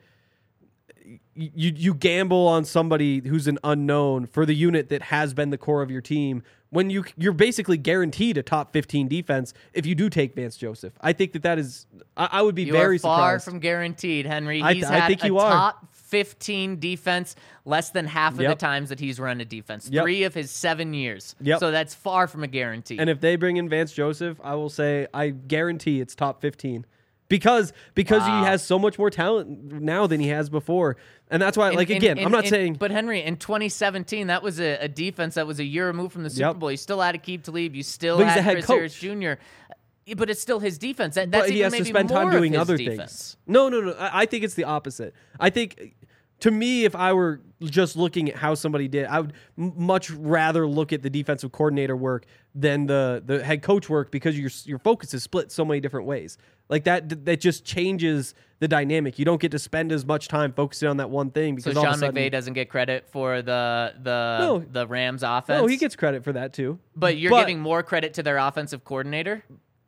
you gamble on somebody who's an unknown for the unit that has been the core of your team when you're basically guaranteed a top 15 defense if you do take Vance Joseph. I think that is I would be very far surprised. from guaranteed, Henry. I He's think had you a are. top 15 defense less than half of the times that he's run a defense. 3 of his 7 years. So that's far from a guarantee. And if they bring in Vance Joseph, I will say I guarantee it's top 15. Because he has so much more talent now than he has before. And that's why, I'm not saying... But Henry, in 2017, that was a defense that was a year removed from the Super Bowl. You still had Aqib Talib. You still had Chris Harris Jr. But it's still his defense. That's but he even has to maybe spend more time of doing his other defense. things. No. I think it's the opposite. I think... To me, if I were just looking at how somebody did, I would much rather look at the defensive coordinator work than the head coach work, because your focus is split so many different ways. Like that just changes the dynamic. You don't get to spend as much time focusing on that one thing. Because so all of Sean a sudden, McVay doesn't get credit for the Rams offense? No, he gets credit for that too. But you're giving more credit to their offensive coordinator?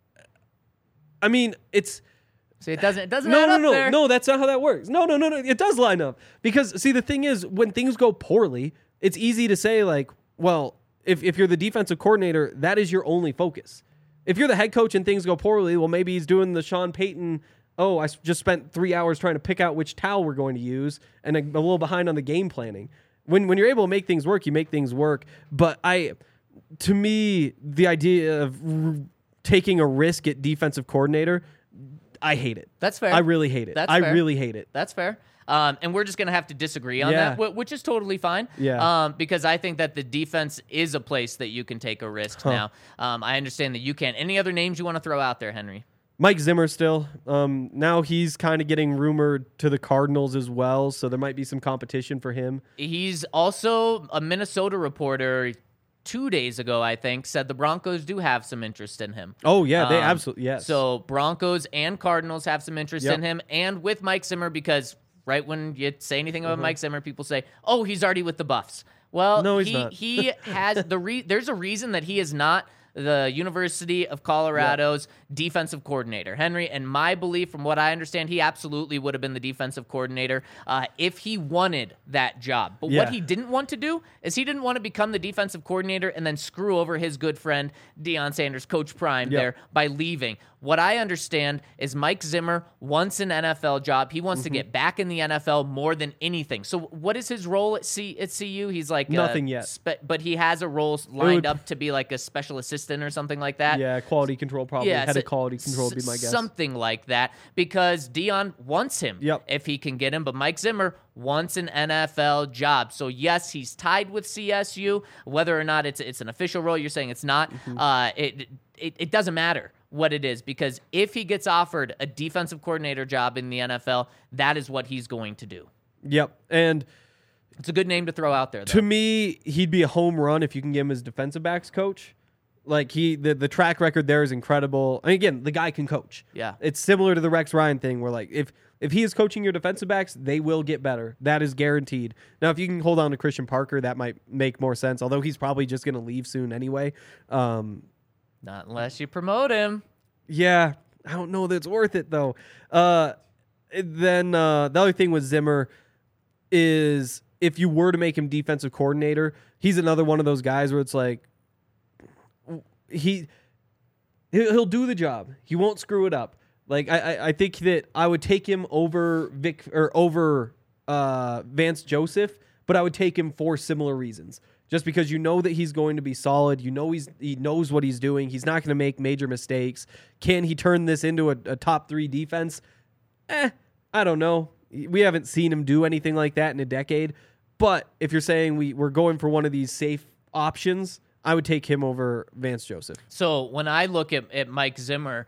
I mean, it's... See, it doesn't add up there. No, that's not how that works. No, it does line up. Because, see, the thing is, when things go poorly, it's easy to say, like, well, if you're the defensive coordinator, that is your only focus. If you're the head coach and things go poorly, well, maybe he's doing the Sean Payton, I just spent 3 hours trying to pick out which towel we're going to use, and a little behind on the game planning. When you're able to make things work, you make things work. But to me, the idea of taking a risk at defensive coordinator, I hate it. That's fair. I really hate it. That's I fair. really hate it. That's fair. And we're just going to have to disagree on Yeah. that, which is totally fine. Yeah. Because I think that the defense is a place that you can take a risk now. I understand that you can. Any other names you want to throw out there, Henry? Mike Zimmer still. Now he's kind of getting rumored to the Cardinals as well, so there might be some competition for him. He's also a Minnesota reporter 2 days ago, I think, said the Broncos do have some interest in him. Oh, yeah, they absolutely, yes. So Broncos and Cardinals have some interest Yep. in him, and with Mike Zimmer, because right when you say anything about Mike Zimmer, people say, "Oh, he's already with the Buffs." Well, No, he's not. He has there's a reason that he is not the University of Colorado's defensive coordinator, Henry. And my belief, from what I understand, he absolutely would have been the defensive coordinator if he wanted that job. But what Yeah. he didn't want to do is he didn't want to become the defensive coordinator and then screw over his good friend Deion Sanders, Coach Prime, there by leaving. What I understand is Mike Zimmer wants an NFL job. He wants to get back in the NFL more than anything. So what is his role at CU? He's like Nothing yet. But he has a role lined up to be like a special assistant or something like that. Yeah, quality control probably. Yeah, Head so- of quality control would be my guess. Something like that, because Deion wants him if he can get him, but Mike Zimmer wants an NFL job. So yes, he's tied with CSU. Whether or not it's an official role, you're saying it's not. It doesn't matter what it is, because if he gets offered a defensive coordinator job in the NFL, that is what he's going to do. Yep, and It's a good name to throw out there, though. to me, he'd be a home run if you can get him as defensive backs coach. Like the track record there is incredible. And again, the guy can coach. Yeah. It's similar to the Rex Ryan thing where like if he is coaching your defensive backs, they will get better. That is guaranteed. Now, if you can hold on to Christian Parker, that might make more sense, although he's probably just going to leave soon anyway. Not unless you promote him. Yeah, I don't know that it's worth it though. Then the other thing with Zimmer is if you were to make him defensive coordinator, he's another one of those guys where it's like he'll do the job. He won't screw it up. Like I think that I would take him over Vance Joseph, but I would take him for similar reasons. Just because you know that he's going to be solid, you know he knows what he's doing. He's not going to make major mistakes. Can he turn this into a top 3 defense? I don't know. We haven't seen him do anything like that in a decade. But if you're saying we're going for one of these safe options, I would take him over Vance Joseph. So when I look at Mike Zimmer,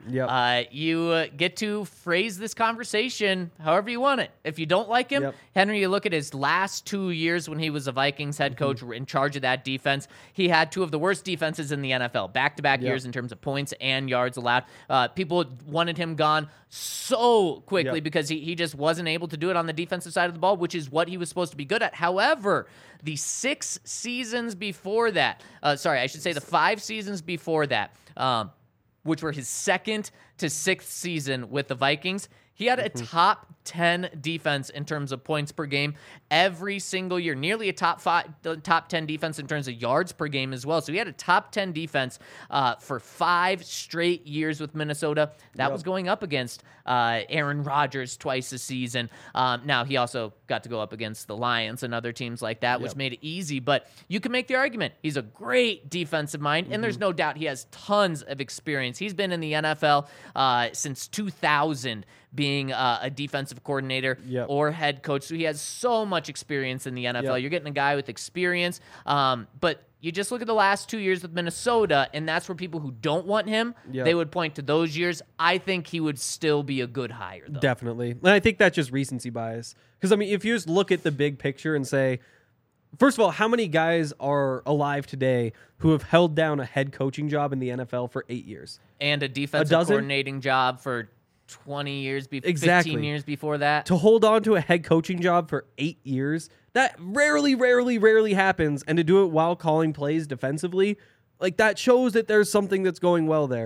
you get to phrase this conversation however you want it. If you don't like him, Henry, you look at his last 2 years when he was a Vikings head coach in charge of that defense. He had 2 of the worst defenses in the NFL, back-to-back years in terms of points and yards allowed. People wanted him gone so quickly because he just wasn't able to do it on the defensive side of the ball, which is what he was supposed to be good at. However, the 6 seasons before that, the 5 seasons before that, which were his 2nd to 6th season with the Vikings, he had a top 10 defense in terms of points per game every single year, nearly a top 10 defense in terms of yards per game as well. So he had a top 10 defense for 5 straight years with Minnesota. That was going up against Aaron Rodgers twice a season. Now he also got to go up against the Lions and other teams like that, which made it easy. But you can make the argument he's a great defensive mind, and there's no doubt he has tons of experience. He's been in the NFL since 2000, being a defensive coordinator or head coach. So he has so much experience in the NFL. You're getting a guy with experience. But you just look at the last 2 years with Minnesota, and that's where people who don't want him, they would point to those years. I think he would still be a good hire, though. Definitely. And I think that's just recency bias. Because, I mean, if you just look at the big picture and say, first of all, how many guys are alive today who have held down a head coaching job in the NFL for 8 years? And a defensive coordinating job for 20 years, 15 years before that. To hold on to a head coaching job for 8 years, that rarely happens. And to do it while calling plays defensively, like that shows that there's something that's going well there.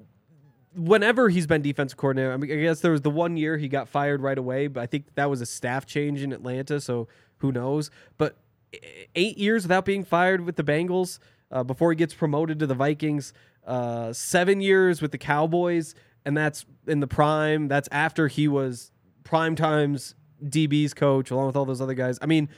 Whenever he's been defensive coordinator, I mean, I guess there was the 1 year he got fired right away, but I think that was a staff change in Atlanta, so who knows. But 8 years without being fired with the Bengals, before he gets promoted to the Vikings. 7 years with the Cowboys, and that's in the prime. That's after he was prime times DB's coach, along with all those other guys. I mean,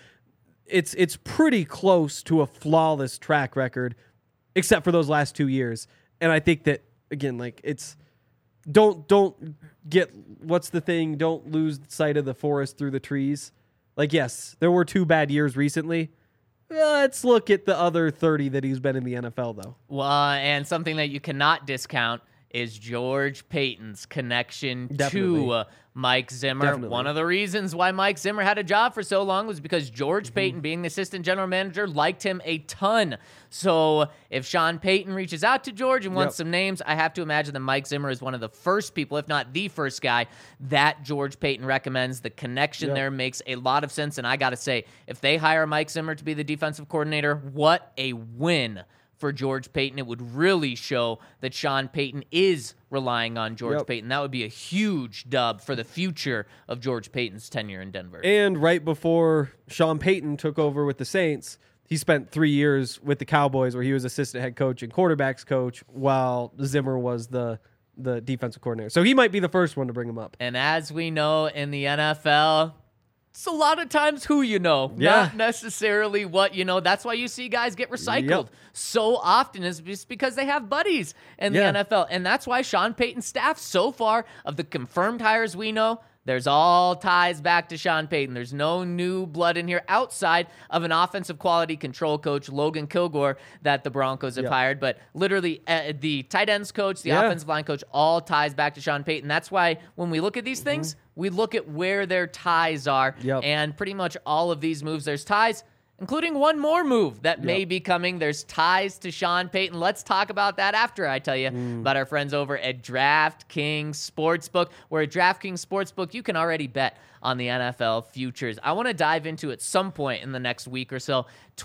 it's pretty close to a flawless track record, except for those last 2 years. And I think that, again, like, it's don't get, what's the thing? Don't lose sight of the forest through the trees. Like, yes, there were 2 bad years recently. Let's look at the other 30 that he's been in the NFL, though. Well, and something that you cannot discount is George Paton's connection to Mike Zimmer. Definitely. One of the reasons why Mike Zimmer had a job for so long was because George Paton, being the assistant general manager, liked him a ton. So if Sean Payton reaches out to George and wants some names, I have to imagine that Mike Zimmer is one of the first people, if not the first guy, that George Paton recommends. The connection there makes a lot of sense. And I got to say, if they hire Mike Zimmer to be the defensive coordinator, what a win for George Paton. It would really show that Sean Payton is relying on George Paton. That would be a huge dub for the future of George Paton's tenure in Denver. And right before Sean Payton took over with the Saints, he spent 3 years with the Cowboys where he was assistant head coach and quarterbacks coach while Zimmer was the defensive coordinator. So he might be the first one to bring him up. And as we know in the NFL, it's a lot of times who you know, not necessarily what you know. That's why you see guys get recycled so often, is just because they have buddies in the NFL. And that's why Sean Payton's staff, so far, of the confirmed hires we know, there's all ties back to Sean Payton. There's no new blood in here outside of an offensive quality control coach, Logan Kilgore, that the Broncos have hired. But literally, the tight ends coach, the offensive line coach, all ties back to Sean Payton. That's why when we look at these things, we look at where their ties are. And pretty much all of these moves, there's ties, including one more move that may be coming. There's ties to Sean Payton. Let's talk about that after I tell you about our friends over at DraftKings Sportsbook, where at DraftKings Sportsbook, you can already bet on the NFL futures. I want to dive into at some point in the next week or so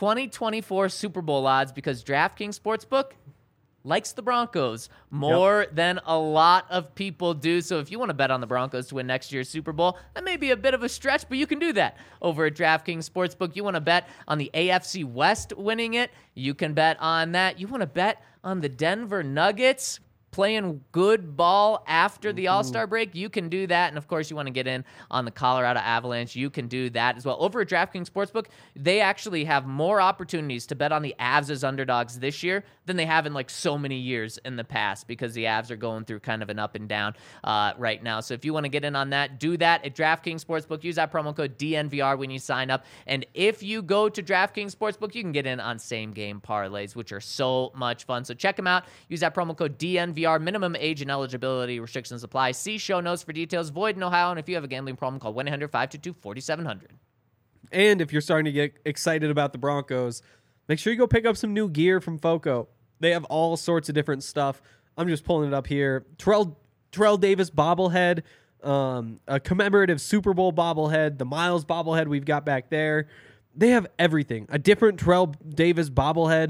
2024 Super Bowl odds, because DraftKings Sportsbook likes the Broncos more than a lot of people do. So if you want to bet on the Broncos to win next year's Super Bowl, that may be a bit of a stretch, but you can do that over at DraftKings Sportsbook. You want to bet on the AFC West winning it, you can bet on that. You want to bet on the Denver Nuggets playing good ball after the All-Star break, you can do that. And, of course, you want to get in on the Colorado Avalanche, you can do that as well. Over at DraftKings Sportsbook, they actually have more opportunities to bet on the Avs as underdogs this year than they have in, like, so many years in the past, because the Avs are going through kind of an up and down right now. So if you want to get in on that, do that at DraftKings Sportsbook. Use that promo code DNVR when you sign up. And if you go to DraftKings Sportsbook, you can get in on same-game parlays, which are so much fun. So check them out. Use that promo code DNVR. Minimum age and eligibility restrictions apply. See show notes for details. Void in Ohio. And if you have a gambling problem, call 1-800-522-4700. And if you're starting to get excited about the Broncos, make sure you go pick up some new gear from Foco. They have all sorts of different stuff. I'm just pulling it up here. Terrell Davis bobblehead, a commemorative Super Bowl bobblehead, the Miles bobblehead we've got back there. They have everything. A different Terrell Davis bobblehead.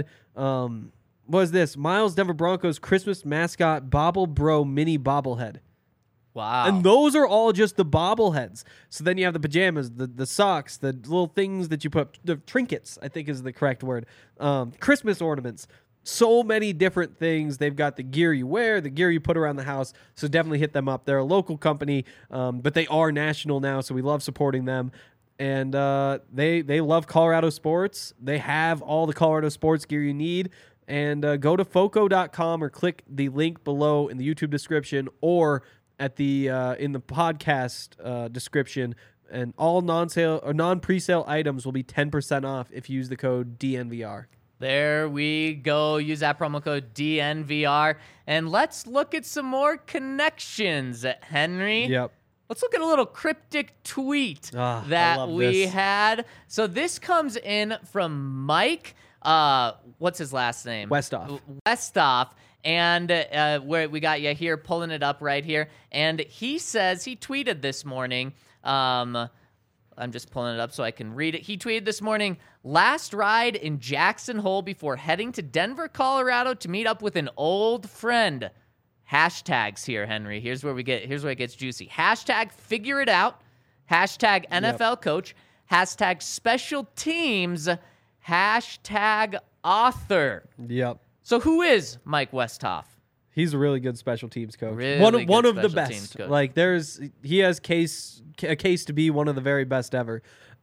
What is this? Miles Denver Broncos Christmas mascot Bobble Bro mini bobblehead. Wow. And those are all just the bobbleheads. So then you have the pajamas, the socks, the little things that you put, the trinkets, I think is the correct word. Christmas ornaments. So many different things. They've got the gear you wear, the gear you put around the house. So definitely hit them up. They're a local company, but they are national now, so we love supporting them. And they love Colorado sports. They have all the Colorado sports gear you need. And go to foco.com or click the link below in the YouTube description or at the in the podcast description. And all non-sale or non-presale items will be 10% off if you use the code DNVR. There we go. Use that promo code DNVR. And let's look at some more connections, Henry. Yep. Let's look at a little cryptic tweet that we had. So this comes in from Mike. What's his last name? Westoff. And where we got you here, pulling it up right here. And he says, he tweeted this morning, I'm just pulling it up so I can read it. He tweeted this morning, last ride in Jackson Hole before heading to Denver, Colorado to meet up with an old friend. Hashtags here, Henry. Here's where it gets juicy. Hashtag figure it out. Hashtag NFL coach. Hashtag special teams. Hashtag author. Yep. So who is Mike Westhoff? He's a really good special teams coach. Really one good of the special teams best. coach. Like he has a case to be one of the very best ever.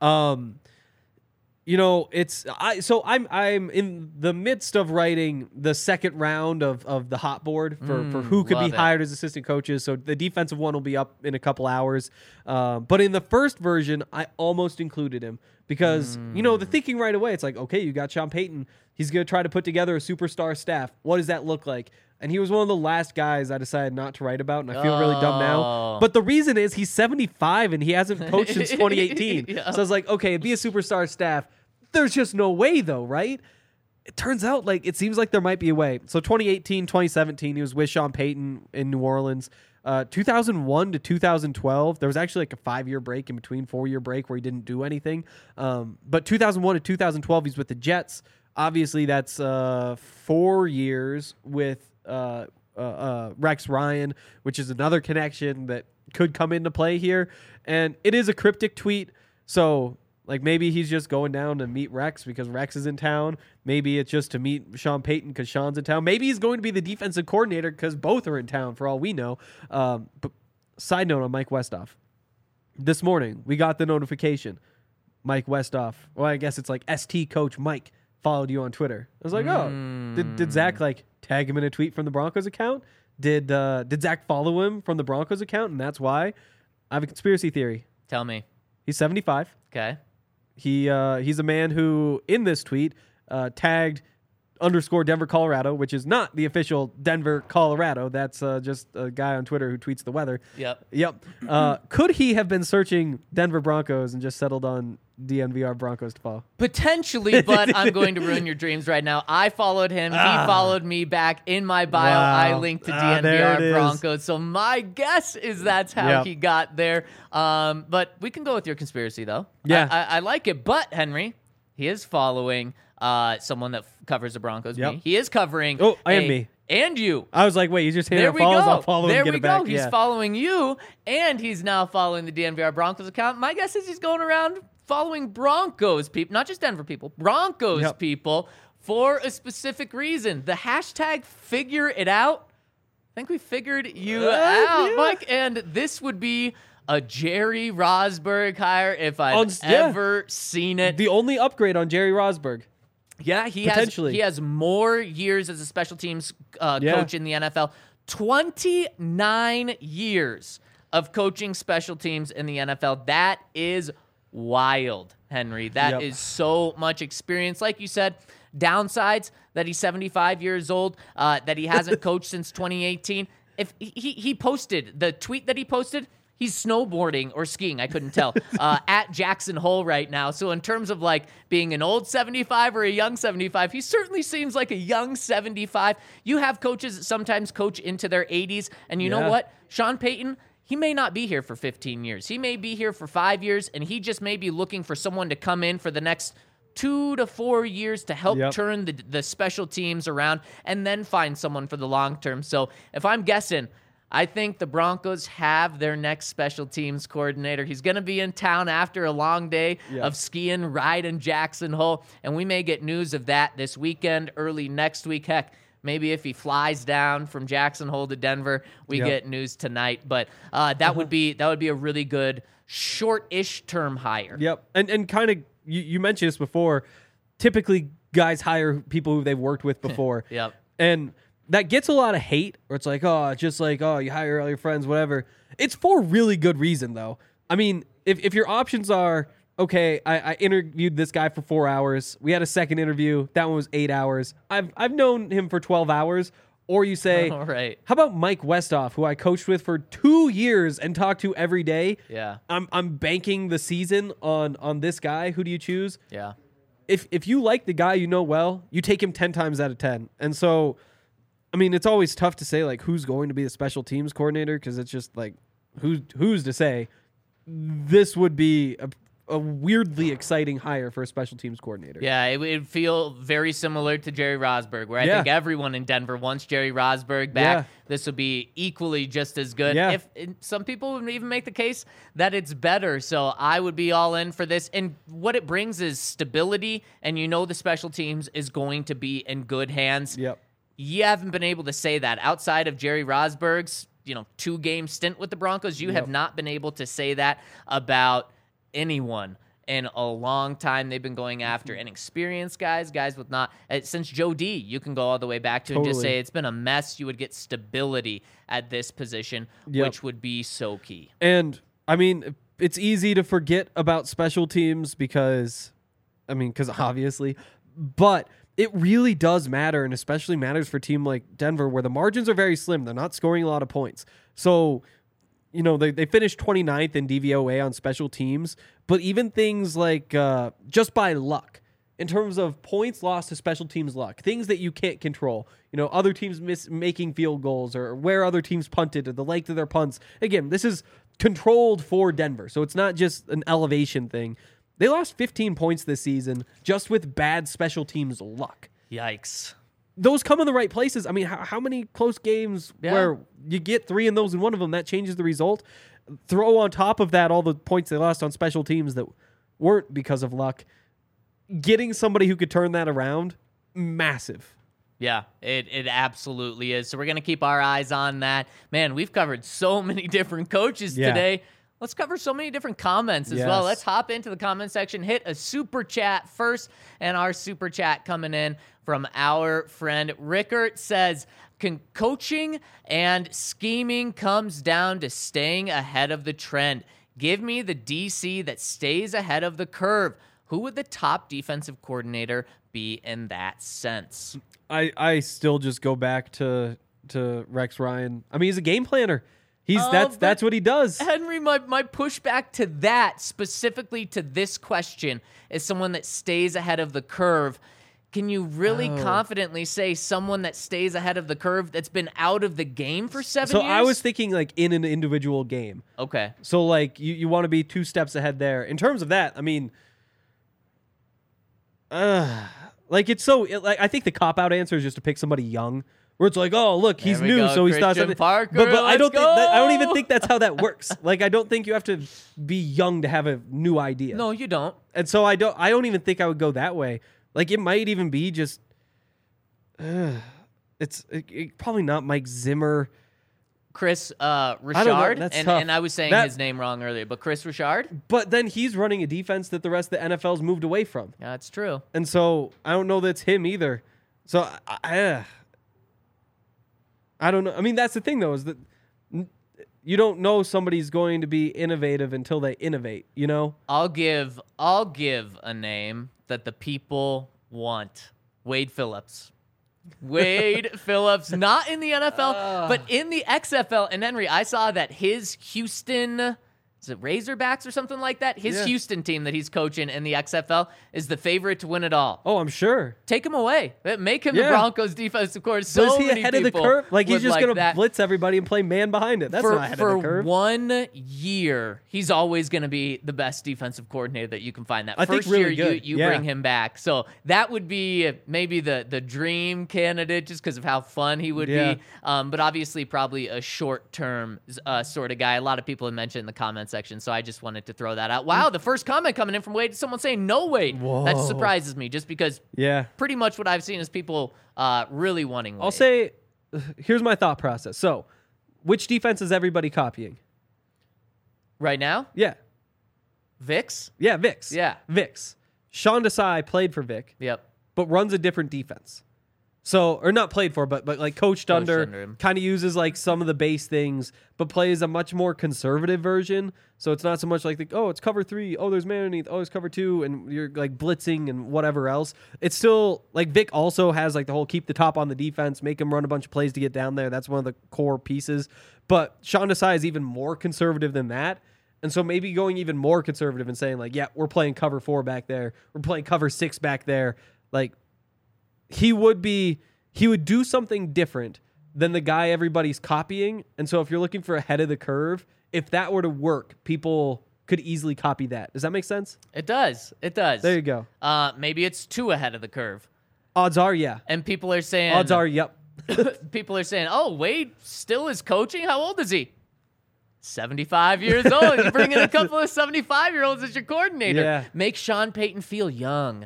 I'm in the midst of writing the second round of the hot board for who could be love it. hired as assistant coaches. So the defensive one will be up in a couple hours. But in the first version, I almost included him because the thinking right away, it's like, okay, you got Sean Payton. He's going to try to put together a superstar staff. What does that look like? And he was one of the last guys I decided not to write about, and I feel really dumb now. But the reason is he's 75 and he hasn't coached since 2018. Yeah. So I was like, okay, it'd be a superstar staff. There's just no way, though, right? It turns out it seems like there might be a way. So 2018, 2017, he was with Sean Payton in New Orleans. 2001 to 2012, there was actually a 5-year break in between, 4-year break where he didn't do anything. But 2001 to 2012, he's with the Jets. Obviously, that's 4 years with Rex Ryan, which is another connection that could come into play here. And it is a cryptic tweet, so maybe he's just going down to meet Rex because Rex is in town. Maybe it's just to meet Sean Payton because Sean's in town. Maybe he's going to be the defensive coordinator because both are in town for all we know. But side note on Mike Westhoff. This morning, we got the notification. Mike Westhoff, well, I guess it's ST Coach Mike followed you on Twitter. I was like, oh, did Zach tag him in a tweet from the Broncos account? Did Zach follow him from the Broncos account, and that's why? I have a conspiracy theory. Tell me. He's 75. Okay. He's a man who, in this tweet, tagged _ Denver, Colorado, which is not the official Denver, Colorado. That's just a guy on Twitter who tweets the weather. Yep. Could he have been searching Denver Broncos and just settled on DNVR Broncos to follow? Potentially, but I'm going to ruin your dreams right now. I followed him. He followed me back. In my bio, I linked to there it DNVR is. Broncos. So my guess is that's how he got there. But we can go with your conspiracy, though. Yeah. I like it. But, Henry, he is following someone that covers the Broncos. Yep. Me. He is covering. And me. And you. I was like, wait, you just handed There out we follows? go. I'll follow There and get we it back. go. He's following you, and he's now following the DNVR Broncos account. My guess is he's going around following Broncos people, not just Denver people, Broncos people for a specific reason. The hashtag figure it out. I think we figured you out, Mike. And this would be a Jerry Rosburg hire if I've ever seen it. The only upgrade on Jerry Rosburg. Yeah, he Potentially. has more years as a special teams coach in the NFL. 29 years of coaching special teams in the NFL. That is wild, Henry. That is so much experience. Like you said, downsides that he's 75 years old, that he hasn't coached since 2018. If he posted the tweet that he posted, he's snowboarding or skiing, I couldn't tell, at Jackson Hole right now. So in terms of being an old 75 or a young 75, he certainly seems like a young 75. You have coaches that sometimes coach into their 80s. And you know what? Sean Payton, he may not be here for 15 years. He may be here for 5 years, and he just may be looking for someone to come in for the next 2 to 4 years to help turn the special teams around and then find someone for the long term. So if I'm guessing, I think the Broncos have their next special teams coordinator. He's going to be in town after a long day of skiing, riding Jackson Hole, and we may get news of that this weekend, early next week. Heck, maybe if he flies down from Jackson Hole to Denver, we get news tonight. But that would be a really good short-ish term hire. Yep, and kind of you mentioned this before. Typically, guys hire people who they've worked with before. And that gets a lot of hate, or it's you hire all your friends, whatever. It's for really good reason, though. I mean, if your options are, okay, I interviewed this guy for 4 hours. We had a second interview. That one was 8 hours. I've known him for 12 hours. Or you say, all right, how about Mike Westhoff, who I coached with for 2 years and talked to every day? Yeah. I'm banking the season on this guy. Who do you choose? Yeah. If you like the guy you know well, you take him 10 times out of 10. And so, I mean, it's always tough to say who's going to be the special teams coordinator because it's just who's to say. This would be a weirdly exciting hire for a special teams coordinator. Yeah, it would feel very similar to Jerry Rosburg, where I think everyone in Denver wants Jerry Rosburg back. Yeah. This would be equally just as good. Yeah. If some people would even make the case that it's better. So I would be all in for this. And what it brings is stability, and the special teams is going to be in good hands. Yep. You haven't been able to say that outside of Jerry Rosburg's 2-game stint with the Broncos. You have not been able to say that about anyone in a long time. They've been going after inexperienced guys with not since Joe D. You can go all the way back to and just say it's been a mess. You would get stability at this position, which would be so key. And I mean, it's easy to forget about special teams because obviously, but it really does matter, and especially matters for a team like Denver where the margins are very slim. They're not scoring a lot of points. So, they finished 29th in DVOA on special teams, but even things like just by luck, in terms of points lost to special teams luck, things that you can't control, other teams making field goals or where other teams punted or the length of their punts. Again, this is controlled for Denver, so it's not just an elevation thing. They lost 15 points this season just with bad special teams luck. Yikes. Those come in the right places. I mean, how many close games where you get 3 in those and one of them, that changes the result? Throw on top of that all the points they lost on special teams that weren't because of luck. Getting somebody who could turn that around, massive. Yeah, it absolutely is. So we're going to keep our eyes on that. Man, we've covered so many different coaches today. Let's cover so many different comments as well. Let's hop into the comment section, hit a super chat first, and our super chat coming in from our friend Rickert says, coaching and scheming comes down to staying ahead of the trend. Give me the DC that stays ahead of the curve. Who would the top defensive coordinator be in that sense? I still just go back to Rex Ryan. I mean, he's a game planner. That's what he does. Henry, my pushback to that, specifically to this question, is someone that stays ahead of the curve. Can you really confidently say someone that stays ahead of the curve that's been out of the game for 7 years? So I was thinking like in an individual game. Okay. So like you want to be 2 steps ahead there. In terms of that, I mean, like I think the cop-out answer is just to pick somebody young. Where it's like, oh, look, he's new, so he's not something. Parker, but I don't even think that's how that works. Like, I don't think you have to be young to have a new idea. No, you don't. And so I don't even think I would go that way. Like, it might even be just, it's probably not Mike Zimmer. Chris Richard, I don't know, that's tough. And I was saying his name wrong earlier, but Chris Richard. But then he's running a defense that the rest of the NFL's moved away from. Yeah, that's true. And so I don't know that's him either. So I don't know. I mean, that's the thing, though, is that you don't know somebody's going to be innovative until they innovate, I'll give a name that the people want. Wade Phillips. Wade Phillips, not in the NFL, but in the XFL. And Henry, I saw that his Houston... Is it Razorbacks or something like that? His Houston team that he's coaching in the XFL is the favorite to win it all. Oh, I'm sure. Take him away. Make him the Broncos defensive coordinator. So is he ahead of the curve? Like he's just going to blitz everybody and play man behind it. That's not ahead of the curve. For 1 year, he's always going to be the best defensive coordinator that you can find. That first really year, good. you bring him back. So that would be maybe the dream candidate just because of how fun he would be. But obviously probably a short-term sort of guy. A lot of people have mentioned in the comment section, so I just wanted to throw that out. Wow, the first comment coming in from Wade, someone saying no Wade. Whoa. That surprises me just because pretty much what I've seen is people really wanting Wade. I'll say, here's my thought process. So, which defense is everybody copying? Right now? Yeah. Vix? Yeah, Vix. Yeah. Vix. Sean Desai played for Vic. Yep. But runs a different defense. So, or not played for, but like coached under him. kind of uses like some of the base things, but plays a much more conservative version. So it's not so much like, it's cover 3. Oh, there's man underneath. Oh, there's cover 2. And you're like blitzing and whatever else. It's still like Vic also has like the whole keep the top on the defense, make him run a bunch of plays to get down there. That's one of the core pieces. But Sean Desai is even more conservative than that. And so maybe going even more conservative and saying like, we're playing cover 4 back there. We're playing cover 6 back there. Like, he would do something different than the guy everybody's copying. And so if you're looking for ahead of the curve, if that were to work, people could easily copy that. Does that make sense? It does. It does. There you go. Maybe it's 2 ahead of the curve. Odds are, yeah. And people are saying... Odds are, yep. People are saying, oh, Wade still is coaching? How old is he? 75 years old. You bring in a couple of 75-year-olds as your coordinator. Yeah. Make Sean Payton feel young.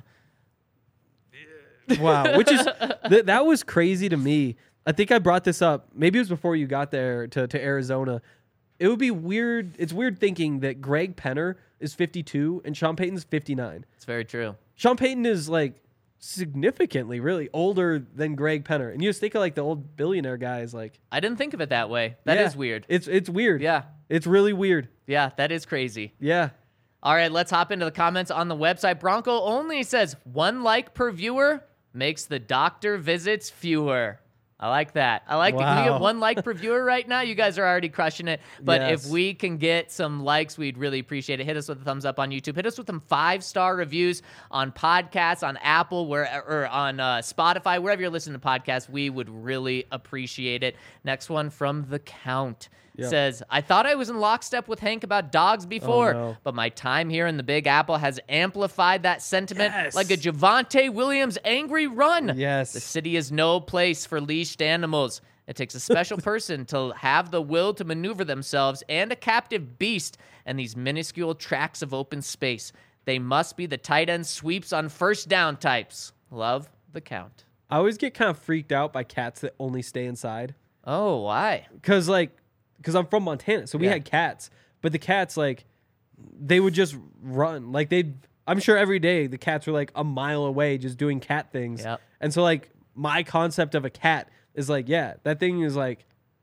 Wow, which is that was crazy to me. I think I brought this up. Maybe it was before you got there to Arizona. It would be weird. It's weird thinking that Greg Penner is 52 and Sean Payton's 59. It's very true. Sean Payton is like significantly really older than Greg Penner. And you just think of like the old billionaire guys like I didn't think of it that way. That is weird. It's weird. Yeah. It's really weird. Yeah, that is crazy. Yeah. All right, let's hop into the comments on the website. Bronco Only says 1 like per viewer makes the doctor visits fewer. I like that. I like that. Can we get 1 like per viewer right now? You guys are already crushing it. But Yes. if we can get some likes, we'd really appreciate it. Hit us with a thumbs up on YouTube. Hit us with some 5-star reviews on podcasts, on Apple, or on Spotify, wherever you're listening to podcasts. We would really appreciate it. Next one from The Count. Yep. Says, I thought I was in lockstep with Hank about dogs before, no. but my time here in the Big Apple has amplified that sentiment Yes. like a Javonte Williams angry run. Yes. The city is no place for leashed animals. It takes a special person to have the will to maneuver themselves and a captive beast in these minuscule tracts of open space. They must be the tight end sweeps on first down types. Love, The Count. I always get kind of freaked out by cats that only stay inside. Oh, why? Because I'm from Montana, so we Yeah. had cats, but the cats, like, they would just run. Like, I'm sure every day the cats were, like, a mile away just doing cat things. Yep. And so, like, my concept of a cat is, like, yeah, that thing is, like,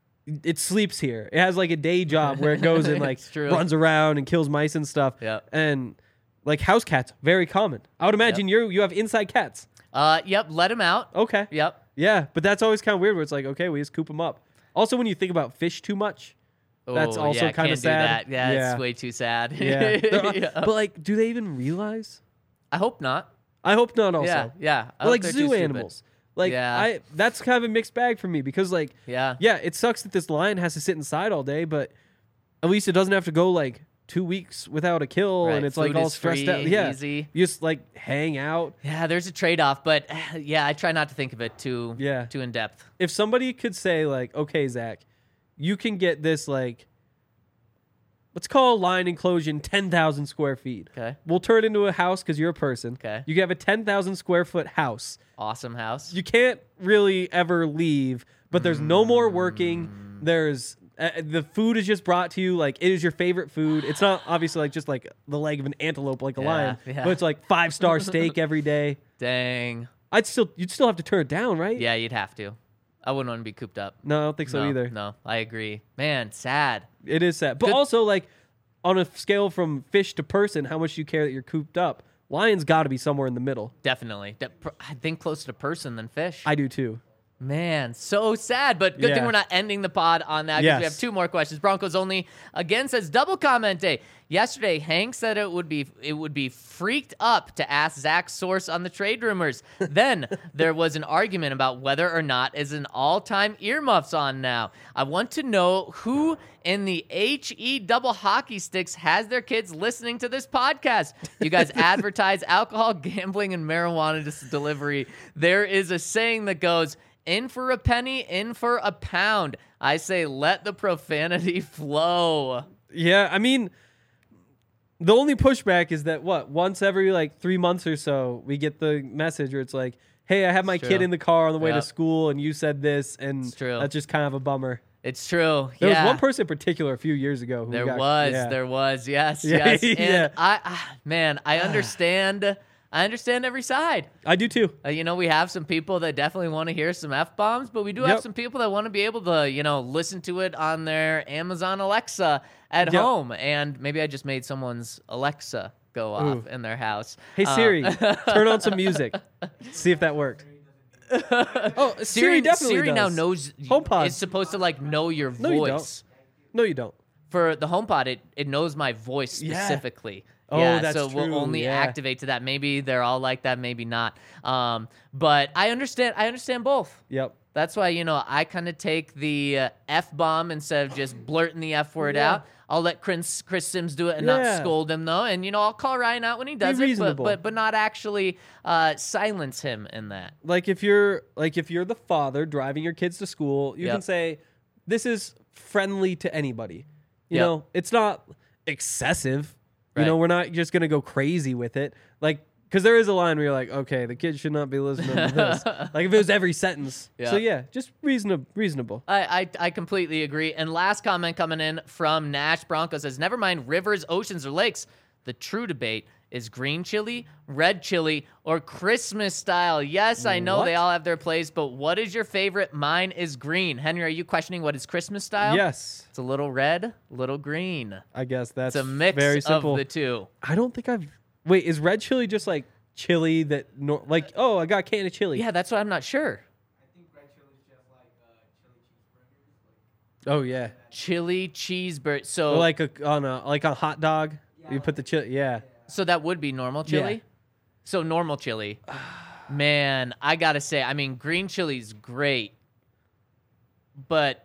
it sleeps here. It has, like, a day job where it goes and, like, It's true. runs around and kills mice and stuff. Yep. And, like, house cats, very common. I would imagine you have inside cats. Yep, let him out. Okay. Yep. Yeah, but that's always kind of weird where it's like, okay, we just coop them up. Also, when you think about fish too much, that's Oh, also yeah, kind can't of sad. do that. Yeah, it's way too sad. Yeah. Yeah. But like, do they even realize? I hope not. I hope not. Also, Yeah, yeah. I But hope like they're too zoo stupid. animals. Like, Yeah. that's kind of a mixed bag for me because like, Yeah. it sucks that this lion has to sit inside all day, but at least it doesn't have to go like 2 weeks without a kill, Right, and it's food like all is stressed free, out. Yeah, easy. you just like hang out. Yeah, there's a trade-off, but yeah, I try not to think of it too in depth. If somebody could say like, okay, Zach, you can get this like, let's call a lion enclosure 10,000 square feet. Okay. We'll turn it into a house because you're a person. Okay. You can have a 10,000 square foot house. Awesome house. You can't really ever leave, but there's no more working. There's the food is just brought to you like it is your favorite food. It's not obviously like just like the leg of an antelope like a lion, yeah. but it's like 5-star steak every day. Dang. You'd still have to turn it down, right? Yeah, you'd have to. I wouldn't want to be cooped up. No, I don't think so No, either. No, I agree. Man, sad. It is sad. But also like on a scale from fish to person, how much do you care that you're cooped up? Lions got to be somewhere in the middle. Definitely. I think closer to person than fish. I do too. Man, so sad, but good thing Yeah. we're not ending the pod on that because we Yes. have 2 more questions. Broncos Only again says double comment day. Yesterday, Hank said it would be freaked up to ask Zach's source on the trade rumors. Then there was an argument about whether or not is an all-time earmuffs on now. I want to know who in the HE double hockey sticks has their kids listening to this podcast. You guys advertise alcohol, gambling, and marijuana delivery. There is a saying that goes, in for a penny, in for a pound. I say let the profanity flow. Yeah, I mean, the only pushback is that once every like 3 months or so, we get the message where it's like, "Hey, I have my It's kid true. in the car on the way to Yep. school, and you said this," and It's true. that's just kind of a bummer. It's true. There yeah. was one person in particular a few years ago who There got, was, yes, Yeah, yes. And yeah. I understand. I understand every side. I do too. We have some people that definitely want to hear some F-bombs, but we do have Yep. some people that want to be able to, listen to it on their Amazon Alexa at Yep. home. And maybe I just made someone's Alexa go off in their house. Hey Siri, turn on some music. See if that worked. Oh, Siri definitely Siri does. now knows. HomePod. It's supposed to know your No, you voice. No, you don't. For the HomePod, it knows my voice Yeah. specifically. Oh, yeah, that's so we'll true, only yeah. activate to that. Maybe they're all like that, maybe not. But I understand both. Yep. That's why, I kind of take the F-bomb instead of just blurting the F word Yeah. out. I'll let Chris Sims do it and not Yeah. scold him though, and I'll call Ryan out when he does it, reasonable. but not actually silence him in that. Like if you're the father driving your kids to school, you Yep. can say, "This is friendly to anybody." You Yep. know, it's not excessive. Right. We're not just gonna go crazy with it. Like, because there is a line where you're like, "Okay, the kids should not be listening to this." Like if it was every sentence. Yeah. So yeah, just reasonable. I completely agree. And last comment coming in from Nash Bronco says, never mind rivers, oceans, or lakes. The true debate is green chili, red chili, or Christmas style. Yes, I know What? they all have their place, but what is your favorite? Mine is green. Henry, are you questioning what is Christmas style? Yes, It's a little red, little green. I guess that's It's a mix very of simple. the two. I don't think I've. Wait, is red chili just like chili that like? Oh, I got a can of chili. Yeah, that's what I'm not sure. Oh yeah. Chili cheeseburger. Or So, like on a hot dog. You put the chili. Yeah. so that would be normal chili? Yeah. So normal chili. Man, I gotta say, I mean, green chili's great, but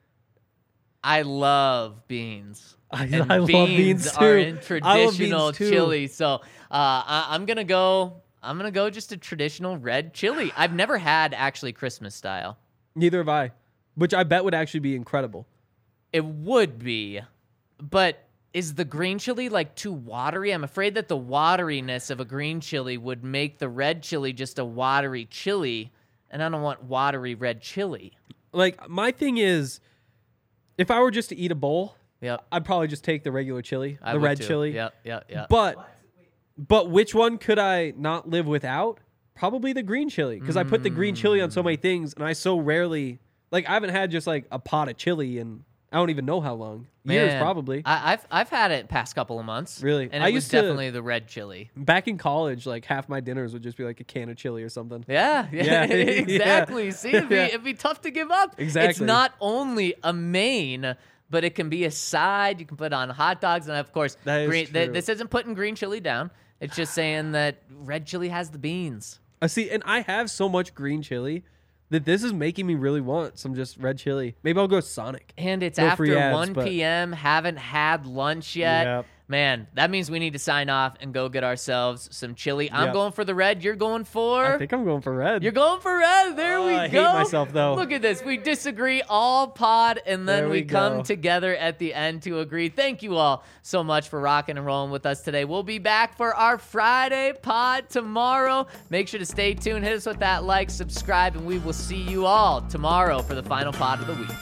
I love beans. I And love beans too. are in I love traditional beans too. chili. So I'm gonna go just a traditional red chili. I've never had actually Christmas style. Neither have I, which I bet would actually be incredible. It would be, but is the green chili like too watery? I'm afraid that the wateriness of a green chili would make the red chili just a watery chili, and I don't want watery red chili. Like my thing is, if I were just to eat a bowl, Yep. I'd probably just take the regular chili, I the would red too. chili. Yep. But which one could I not live without? Probably the green chili, because I put the green chili on so many things, and I so rarely like I haven't had just like a pot of chili in I don't even know how long. Years Man, probably. I've had it past couple of months. Really? and I it was used to- definitely the red chili. Back in college, like half my dinners would just be like a can of chili or something. Yeah, Yeah, exactly. yeah. See, it'd be tough to give up. It's Exactly. not only a main, but it can be a side. You can put on hot dogs, and of course, That is green. true. This isn't putting green chili down. It's just saying that red chili has the beans. See, and I have so much green chili that this is making me really want some just red chili. Maybe I'll go Sonic. And it's No after free ads, 1 but- p.m. Haven't had lunch yet. Yep. Man, that means we need to sign off and go get ourselves some chili. I'm Yep. going for the red. You're going for? I think I'm going for red. You're going for red. There we I hate go. myself, though. Look at this. We disagree all pod, and then There we we come go. together at the end to agree. Thank you all so much for rocking and rolling with us today. We'll be back for our Friday pod tomorrow. Make sure to stay tuned. Hit us with that like, subscribe, and we will see you all tomorrow for the final pod of the week.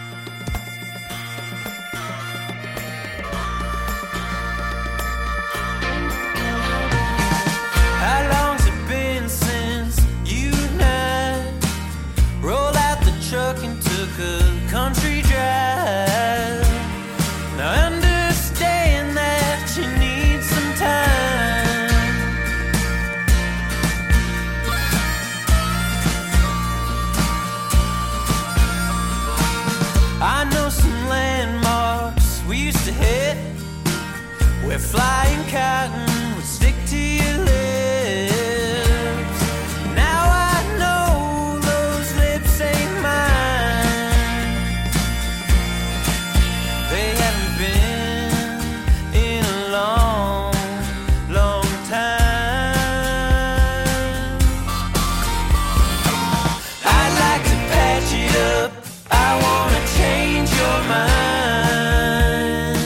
How long's it been since you and I rolled out the truck and took a country drive? Now understand that you need some time. I know some landmarks we used to hit where flying cotton would stick to your lips. Now I know those lips ain't mine. They haven't been in a long, long time. I'd like to patch it up. I wanna change your mind.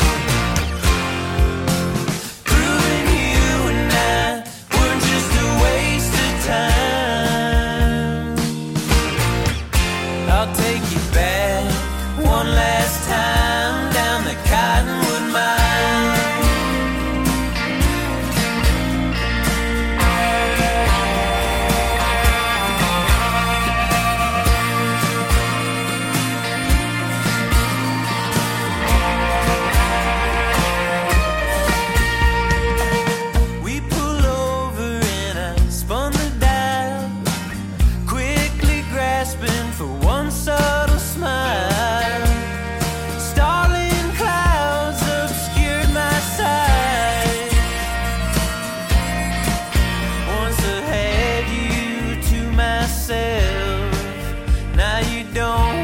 Proving you and I were just a waste of time. I'll take you back one last time down the Cottonwood Mine. We pull over and I spun the dial, quickly grasping for one subtle smile. Starling clouds obscured my sight. Once I had you to myself, now you don't